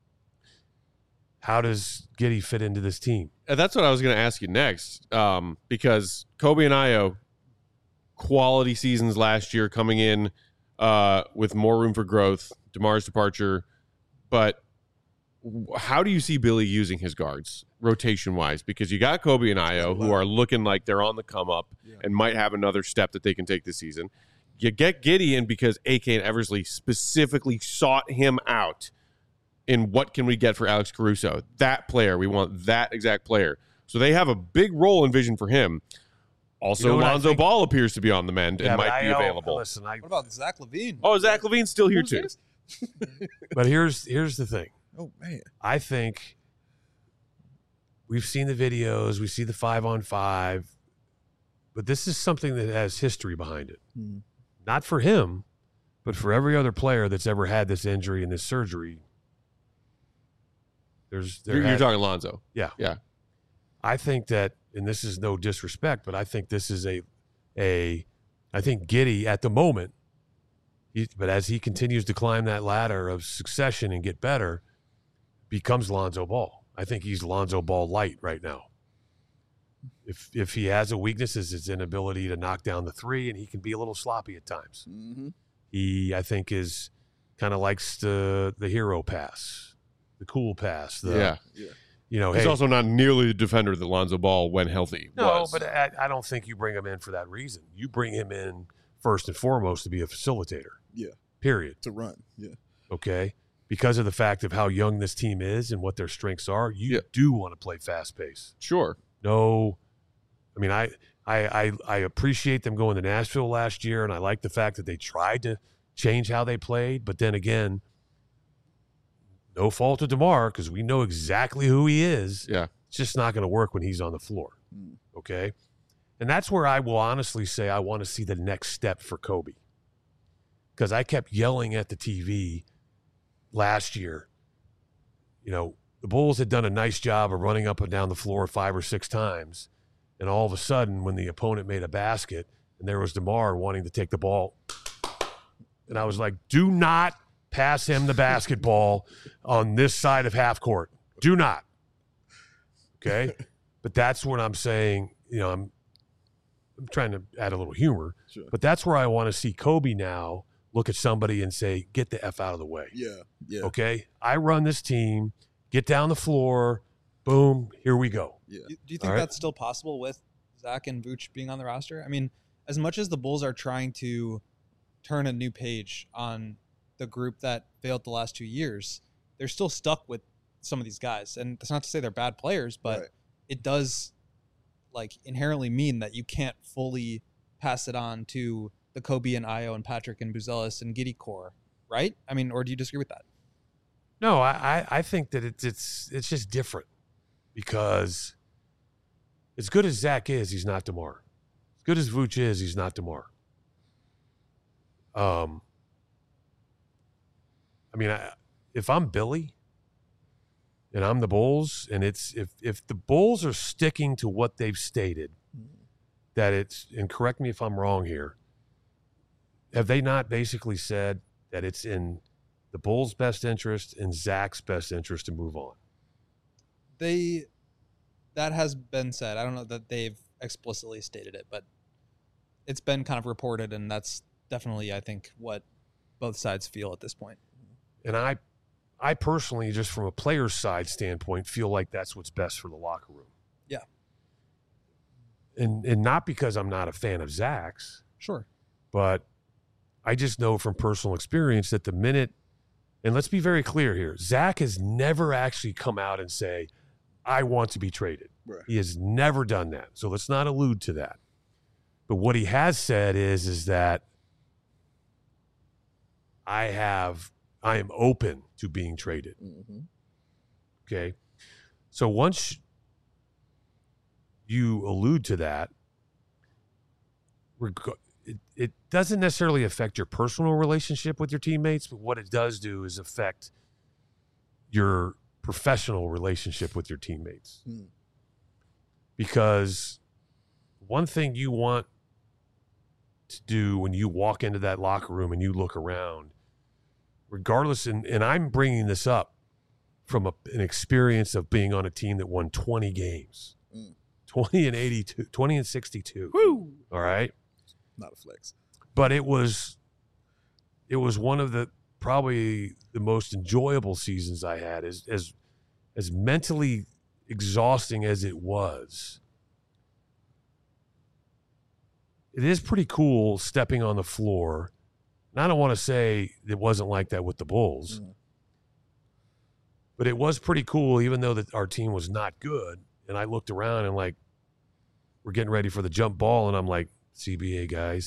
How does Giddey fit into this team? That's what I was going to ask you next, because Kobe and Ayo, quality seasons last year, coming in with more room for growth, DeMar's departure. But how do you see Billy using his guards rotation-wise? Because you got Kobe and Ayo, who are looking like they're on the come-up and might have another step that they can take this season. You get Giddey in because AK and Eversley specifically sought him out in what can we get for Alex Caruso. That player, we want that exact player. So they have a big role and vision for him. Also, Lonzo Ball appears to be on the mend and might be available. What about Zach LaVine? Oh, Zach LaVine's still here too. But here's the thing. Oh, man. I think we've seen the videos. We see the 5-on-5. But this is something that has history behind it. Mm. Not for him, but for every other player that's ever had this injury and this surgery. You're talking Lonzo. Yeah. Yeah. I think that, and this is no disrespect, but I think this is I think Giddey at the moment, but as he continues to climb that ladder of succession and get better, becomes Lonzo Ball. I think he's Lonzo Ball light right now. If he has a weakness, is his inability to knock down the three, and he can be a little sloppy at times. Mm-hmm. He, I think, is kind of likes the hero pass, the cool pass. He's also not nearly the defender that Lonzo Ball, when healthy, was. No, but I don't think you bring him in for that reason. You bring him in first and foremost to be a facilitator. Yeah. Period. To run. Yeah. Okay. Because of the fact of how young this team is and what their strengths are, you do want to play fast pace. Sure. No, I mean, I appreciate them going to Nashville last year, and I like the fact that they tried to change how they played. But then again, no fault of DeMar, because we know exactly who he is. Yeah. just not going to work when he's on the floor. Okay? And that's where I will honestly say I want to see the next step for Kobe. Because I kept yelling at the TV last year. You know, the Bulls had done a nice job of running up and down the floor 5 or 6 times. And all of a sudden, when the opponent made a basket and there was DeMar wanting to take the ball, and I was like, do not pass him the basketball on this side of half court. Do not. Okay? But that's what I'm saying. You know, I'm trying to add a little humor. Sure. But that's where I want to see Kobe now look at somebody and say, get the F out of the way. Yeah. Okay? I run this team. Get down the floor. Boom. Here we go. Yeah. Do you think All right. that's still possible with Zach and Vooch being on the roster? I mean, as much as the Bulls are trying to turn a new page on the group that failed the last 2 years, they're still stuck with some of these guys. And that's not to say they're bad players, but Right. it does like inherently mean that you can't fully pass it on to the Kobe and Ayo and Patrick and Buzelis and Giddey core, right? I mean, or do you disagree with that? No, I think that it's just different because as good as Zach is, he's not DeMar. As good as Vooch is, he's not DeMar. I mean, if I'm Billy and I'm the Bulls, and it's if the Bulls are sticking to what they've stated, that it's, and correct me if I'm wrong here, have they not basically said that it's in the Bulls' best interest and Zach's best interest to move on? That has been said. I don't know that they've explicitly stated it, but it's been kind of reported, and that's definitely, I think, what both sides feel at this point. And I personally, just from a player's side standpoint, feel like that's what's best for the locker room. Yeah. And not because I'm not a fan of Zach's, Sure. but I just know from personal experience that the minute, and let's be very clear here, Zach has never actually come out and say, I want to be traded. Right. He has never done that. So let's not allude to that. But what he has said is that I am open to being traded. Mm-hmm. Okay. So once you allude to that, it doesn't necessarily affect your personal relationship with your teammates, but what it does do is affect your professional relationship with your teammates. Because one thing you want to do when you walk into that locker room and you look around, regardless, and I'm bringing this up from an experience of being on a team that won 20 games, 20 and 82, 20 and 62. Woo! All right. Not a flex. But it was one of the probably the most enjoyable seasons I had. As mentally exhausting as it was, it is pretty cool stepping on the floor. And I don't want to say it wasn't like that with the Bulls, but it was pretty cool, even though that our team was not good. And I looked around and like, we're getting ready for the jump ball, and I'm like, CBA guy,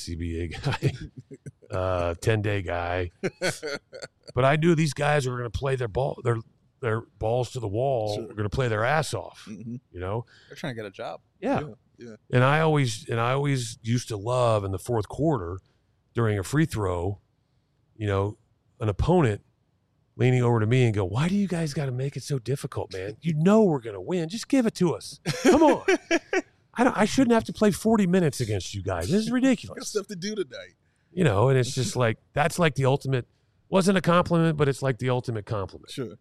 10-day guy. But I knew these guys were going to play their balls to the wall. Sure. We're going to play their ass off. Mm-hmm. You know, They're trying to get a job. yeah. Yeah. And I always used to love in the fourth quarter during a free throw, you know, an opponent leaning over to me and go, "Why do you guys got to make it so difficult, man? You know we're going to win. Just give it to us. Come on." I shouldn't have to play 40 minutes against you guys. This is Got ridiculous. stuff to do tonight. You know, and it's just like, that's like the ultimate, wasn't a compliment, but it's like the ultimate compliment. Sure.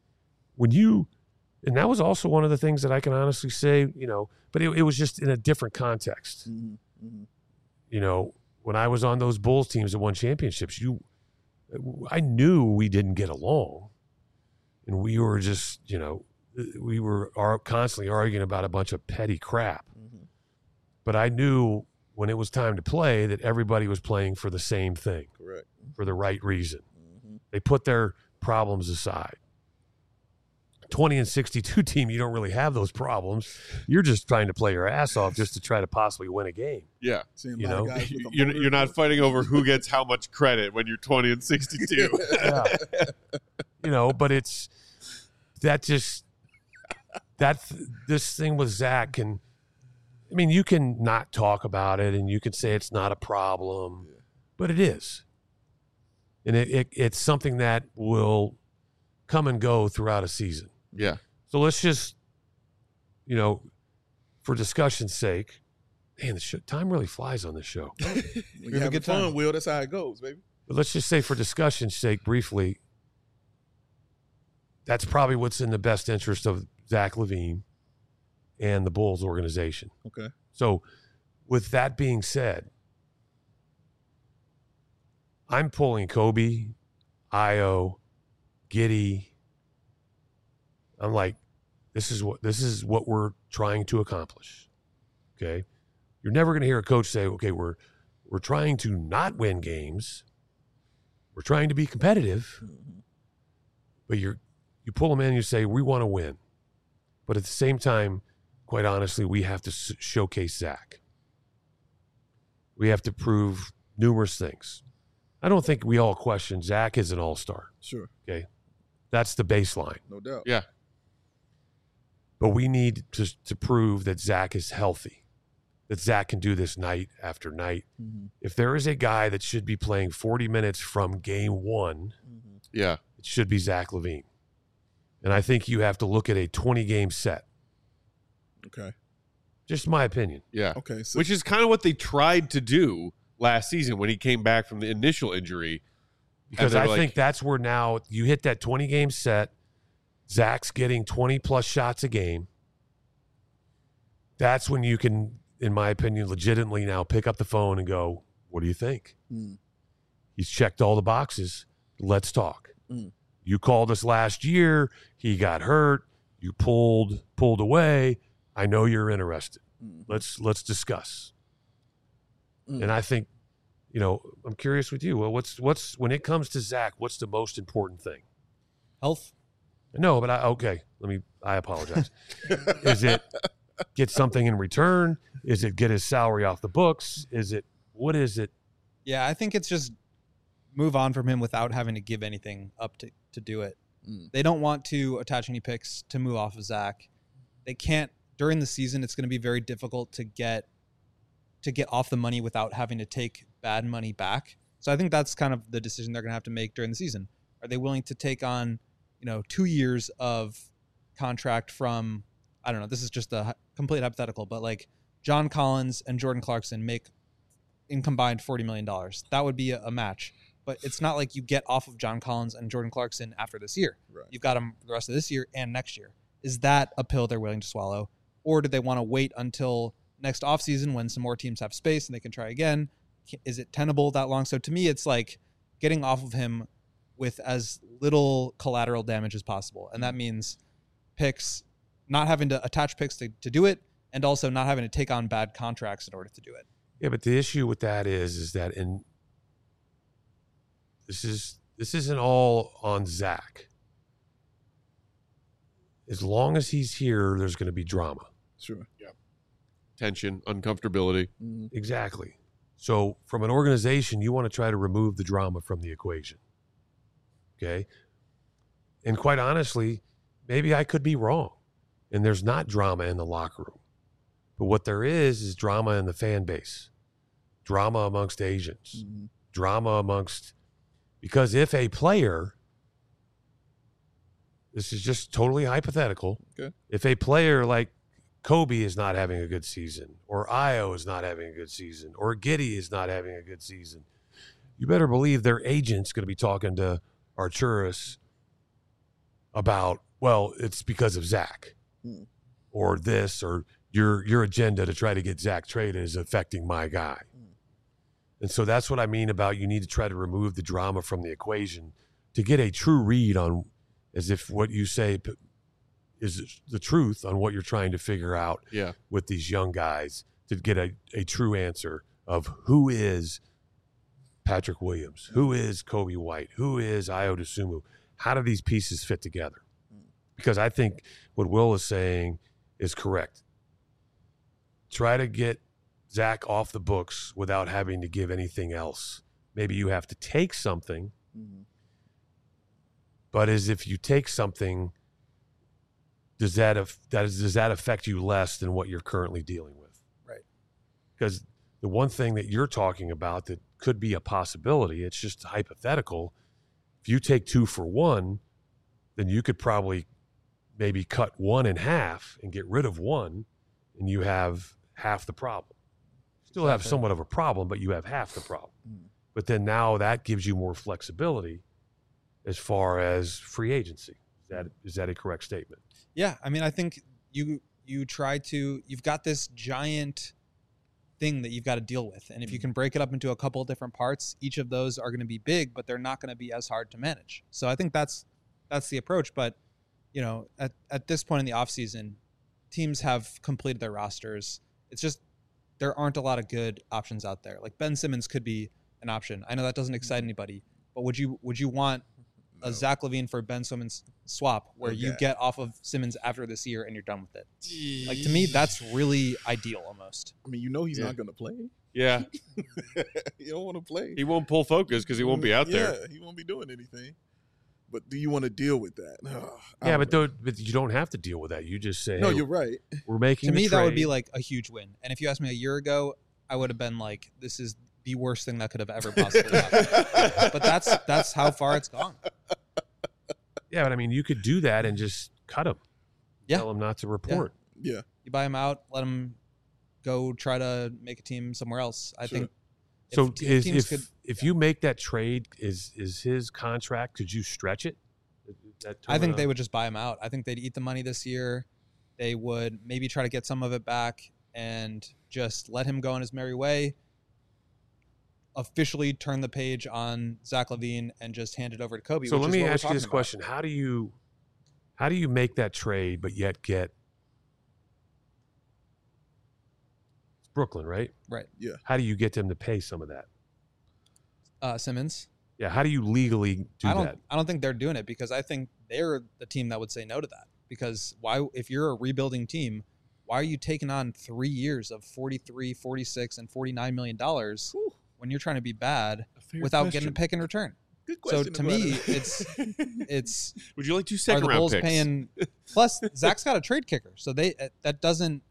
And that was also one of the things that I can honestly say, you know, but it was just in a different context. Mm-hmm. Mm-hmm. You know, when I was on those Bulls teams that won championships, I knew we didn't get along. And we were just, you know, we were constantly arguing about a bunch of petty crap. Mm-hmm. But I knew when it was time to play that everybody was playing for the same thing, Correct. for the right reason. Mm-hmm. They put their problems aside. 20 and 62 team, you don't really have those problems. You're just trying to play your ass off just to try to possibly win a game. Yeah. Seeing You a lot of know, guys with a You're motor. not fighting over who gets how much credit when you're 20 and 62. Yeah. You know, but this thing with Zach you can not talk about it and you can say it's not a problem, but it is. And it's something that will come and go throughout a season. Yeah. So let's just, for discussion's sake, man, time really flies on this show. We have a good fun, Will. That's how it goes, baby. But let's just say for discussion's sake, briefly, that's probably what's in the best interest of Zach LaVine and the Bulls organization. Okay. So with that being said, I'm pulling Kobe, Ayo, Giddey. I'm like, this is what we're trying to accomplish. Okay. You're never going to hear a coach say, okay, we're trying to not win games. We're trying to be competitive. But you pull them in and you say, we want to win. But at the same time, quite honestly, we have to showcase Zach. We have to prove numerous things. I don't think we all question Zach is an all-star. Sure. Okay. That's the baseline. No doubt. Yeah. But we need to prove that Zach is healthy, that Zach can do this night after night. Mm-hmm. If there is a guy that should be playing 40 minutes from game one, Yeah. it should be Zach LaVine. And I think you have to look at a 20-game set. Okay. Just my opinion. Yeah. Okay. So, Which is kind of what they tried to do last season when he came back from the initial injury. Because And I they're think that's where now you hit that 20-game set. Zach's getting 20-plus shots a game. That's when you can, in my opinion, legitimately now pick up the phone and go, what do you think? He's checked all the boxes. Let's talk. You called us last year. He got hurt. You pulled away. I know you're interested. Let's discuss. And I think, I'm curious with you. Well, what's when it comes to Zach, what's the most important thing? Health. No, but I apologize. Is it get something in return? Is it get his salary off the books? What is it? Yeah, I think it's just move on from him without having to give anything up to do it. They don't want to attach any picks to move off of Zach. They can't during the season. It's going to be very difficult to get off the money without having to take bad money back. So I think that's kind of the decision they're going to have to make during the season. Are they willing to take on 2 years of contract from, I don't know, this is just a complete hypothetical, but like John Collins and Jordan Clarkson make in combined $40 million. That would be a match. But it's not like you get off of John Collins and Jordan Clarkson after this year. Right. You've got them the rest of this year and next year. Is that a pill they're willing to swallow? Or do they want to wait until next offseason when some more teams have space and they can try again? Is it tenable that long? So to me, it's like getting off of him with as little collateral damage as possible. And that means picks, not having to attach picks to do it, and also not having to take on bad contracts in order to do it. Yeah, but the issue with that is that this isn't all on Zach. As long as he's here, there's going to be drama. Sure. Yeah. Tension, uncomfortability. Exactly. So from an organization, you want to try to remove the drama from the equation. Okay? And quite honestly, maybe I could be wrong. And there's not drama in the locker room. But what there is drama in the fan base. Drama amongst agents. Drama amongst... Because if a player... This is just totally hypothetical. Okay. If a player like Kobe is not having a good season, or Ayo is not having a good season, or Giddey is not having a good season, you better believe their agent's going to be talking to Arturas about, well, it's because of Zach, or this, or your agenda to try to get Zach traded is affecting my guy. And so that's what I mean about you need to try to remove the drama from the equation to get a true read on, as if what you say is the truth on what you're trying to figure out with these young guys, to get a true answer of who is Patrick Williams, who is Kobe White, who is Ayo Dosunmu. How do these pieces fit together? Because I think what Will is saying is correct. Try to get Zach off the books without having to give anything else. Maybe you have to take something, but as if you take something, does that affect you less than what you're currently dealing with? Right. Because the one thing that you're talking about that could be a possibility, it's just hypothetical. If you take 2 for 1, then you could probably maybe cut 1 in half and get rid of 1, and you have half the problem. Still have somewhat of a problem, but you have half the problem. But then now that gives you more flexibility as far as free agency. Is that a correct statement? Yeah, I mean, I think you've got this giant thing that you've got to deal with, and if you can break it up into a couple of different parts, each of those are going to be big, but they're not going to be as hard to manage. So I think that's the approach. But at this point in the offseason, teams have completed their rosters. It's just there aren't a lot of good options out there. Like Ben Simmons could be an option. I know that doesn't excite anybody, but would you want a Zach LaVine for Ben Simmons swap where you get off of Simmons after this year and you're done with it? Like, to me, that's really ideal almost. I mean, he's not going to play. Yeah. He don't want to play. He won't pull focus because he won't be out there. Yeah, he won't be doing anything. But do you want to deal with that? But you don't have to deal with that. You just say, no, hey, you're right. We're making to me, trade. that would be like a huge win. And if you asked me a year ago, I would have been like, this is the worst thing that could have ever possibly happened. But that's how far it's gone. Yeah, but I mean, you could do that and just cut him. Yeah. Tell him not to report. Yeah. You buy him out, let him go try to make a team somewhere else. I think. So if you make that trade, is his contract, could you stretch it? I think they would just buy him out. I think they'd eat the money this year. They would maybe try to get some of it back and just let him go on his merry way. Officially turn the page on Zach LaVine and just hand it over to Kobe. So let me ask you this question: How do you make that trade but yet get it's Brooklyn, right? Right. Yeah. How do you get them to pay some of that? Simmons. Yeah. How do you legally do that? I don't think they're doing it because I think they're the team that would say no to that. Because if you're a rebuilding team, why are you taking on 3 years of $43, $46, and $49 million when you're trying to be bad without getting a pick in return? Good question. So to me, it's would you like 2 are second the round Bulls picks? paying? Plus, Zach's got a trade kicker, so they don't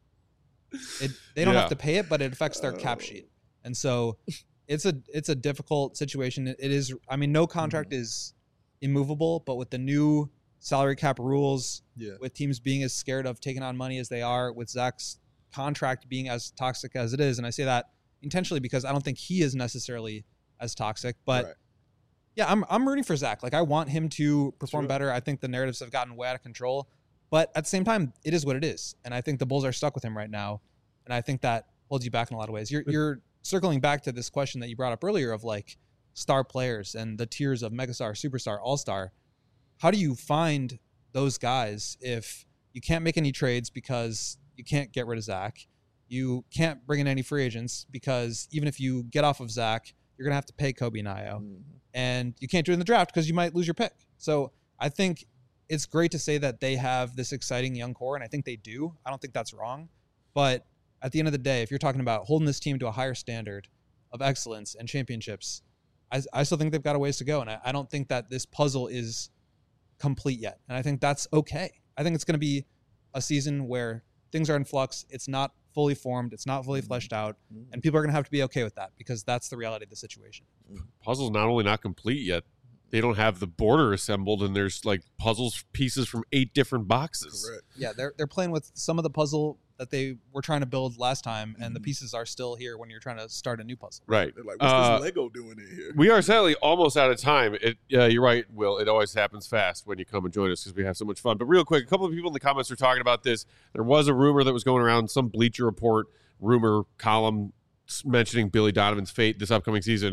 have to pay it, but it affects their cap sheet, and so it's a difficult situation. It is. I mean, no contract is immovable, but with the new salary cap rules, with teams being as scared of taking on money as they are, with Zach's contract being as toxic as it is, and I say that intentionally because I don't think he is necessarily as toxic, but yeah, I'm rooting for Zach. Like, I want him to perform better. I think the narratives have gotten way out of control, but at the same time, it is what it is, and I think the Bulls are stuck with him right now, and I think that holds you back in a lot of ways. You're circling back to this question that you brought up earlier of like star players and the tiers of megastar, superstar, all-star. How do you find those guys if you can't make any trades because you can't get rid of Zach? You can't bring in any free agents because even if you get off of Zach, you're going to have to pay Kobe and Io. And you can't do it in the draft because you might lose your pick. So I think it's great to say that they have this exciting young core, and I think they do. I don't think that's wrong. But at the end of the day, if you're talking about holding this team to a higher standard of excellence and championships, I still think they've got a ways to go. And I don't think that this puzzle is complete yet. And I think that's okay. I think it's going to be a season where things are in flux. It's not fully formed. It's not fully fleshed out. And people are going to have to be okay with that because that's the reality of the situation. Puzzle's not only not complete yet, they don't have the border assembled, and there's like puzzles pieces from 8 different boxes. Correct. Yeah, they're playing with some of the puzzle that they were trying to build last time, and the pieces are still here when you're trying to start a new puzzle. Right. They're like, what's this Lego doing in here? We are sadly almost out of time. You're right, Will. It always happens fast when you come and join us because we have so much fun. But real quick, a couple of people in the comments are talking about this. There was a rumor that was going around, some Bleacher Report rumor column mentioning Billy Donovan's fate this upcoming season.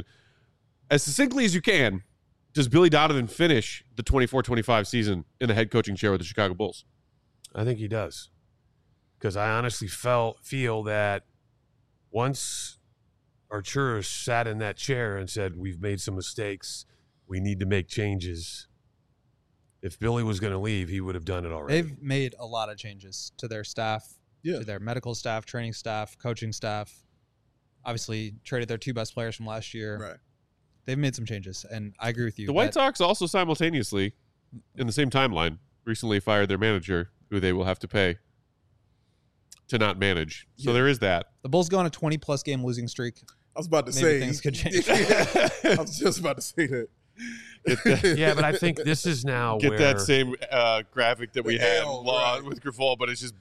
As succinctly as you can, does Billy Donovan finish the 24-25 season in the head coaching chair with the Chicago Bulls? I think he does. Because I honestly feel that once Arturas sat in that chair and said, we've made some mistakes, we need to make changes, if Billy was going to leave, he would have done it already. They've made a lot of changes to their staff, to their medical staff, training staff, coaching staff. Obviously, traded their 2 best players from last year. Right. They've made some changes, and I agree with you. The White Sox also simultaneously, in the same timeline, recently fired their manager who they will have to pay to not manage. So Yeah. there is that. The Bulls go on a 20-plus game losing streak. I was about to Maybe say things could change. I was just about to say that. Yeah, but I think this is now Get where that same graphic that we The had L, right. with Grifol, but it's just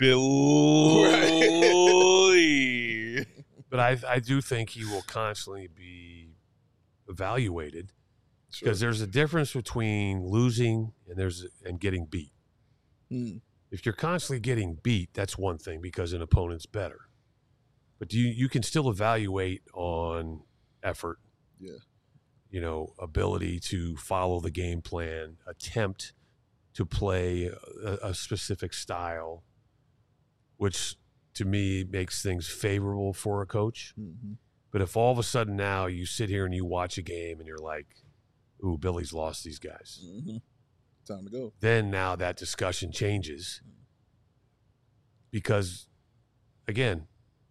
Billy. But I do think he will constantly be evaluated because there's a difference between losing and getting beat. Mm. If you're constantly getting beat, that's one thing because an opponent's better. But you can still evaluate on effort. Yeah. Ability to follow the game plan, attempt to play a specific style, which to me makes things favorable for a coach. Mm-hmm. But if all of a sudden now you sit here and you watch a game and you're like, ooh, Billy's lost these guys. Mm-hmm. Time to go. Then now that discussion changes because, again,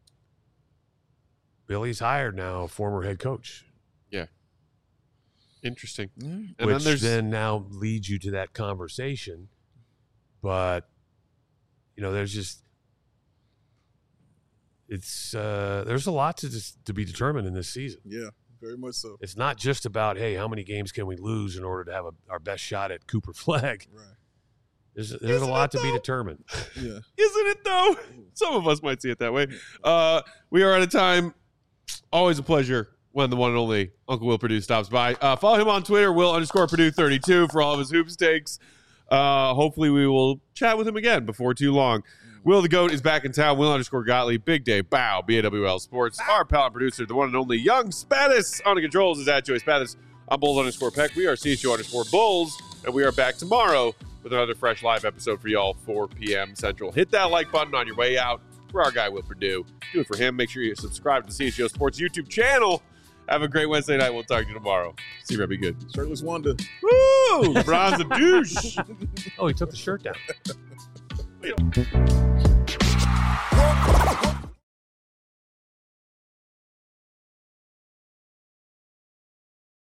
Billy's hired now a former head coach. Interesting. Mm. And which then there's now leads you to that conversation. But, there's just there's a lot to be determined in this season. Yeah, very much so. It's not just about, hey, how many games can we lose in order to have our best shot at Cooper Flag? Right. There's a Isn't lot it, to be though? determined. Yeah. Isn't it though? Some of us might see it that way. We are out of time. Always a pleasure when the one and only Uncle Will Purdue stops by. Follow him on Twitter, Will_Purdue32 for all of his hoops takes. Hopefully we will chat with him again before too long. Will the GOAT is back in town. Will_Gottlieb, Big Day, Bow, BAWL Sports. Our pal and producer, the one and only Young Spatis on the controls is at Joey Spatis. I'm Bulls_Peck. We are CHO_Bulls, and we are back tomorrow with another fresh live episode for y'all, 4 p.m. Central. Hit that like button on your way out for our guy, Will Purdue. Do it for him. Make sure you subscribe to the CHO Sports YouTube channel. Have a great Wednesday night. We'll talk to you tomorrow. See you, be good. Shirtless Wonder. Woo! LeBron's a douche. Oh, he took the shirt down. Wait.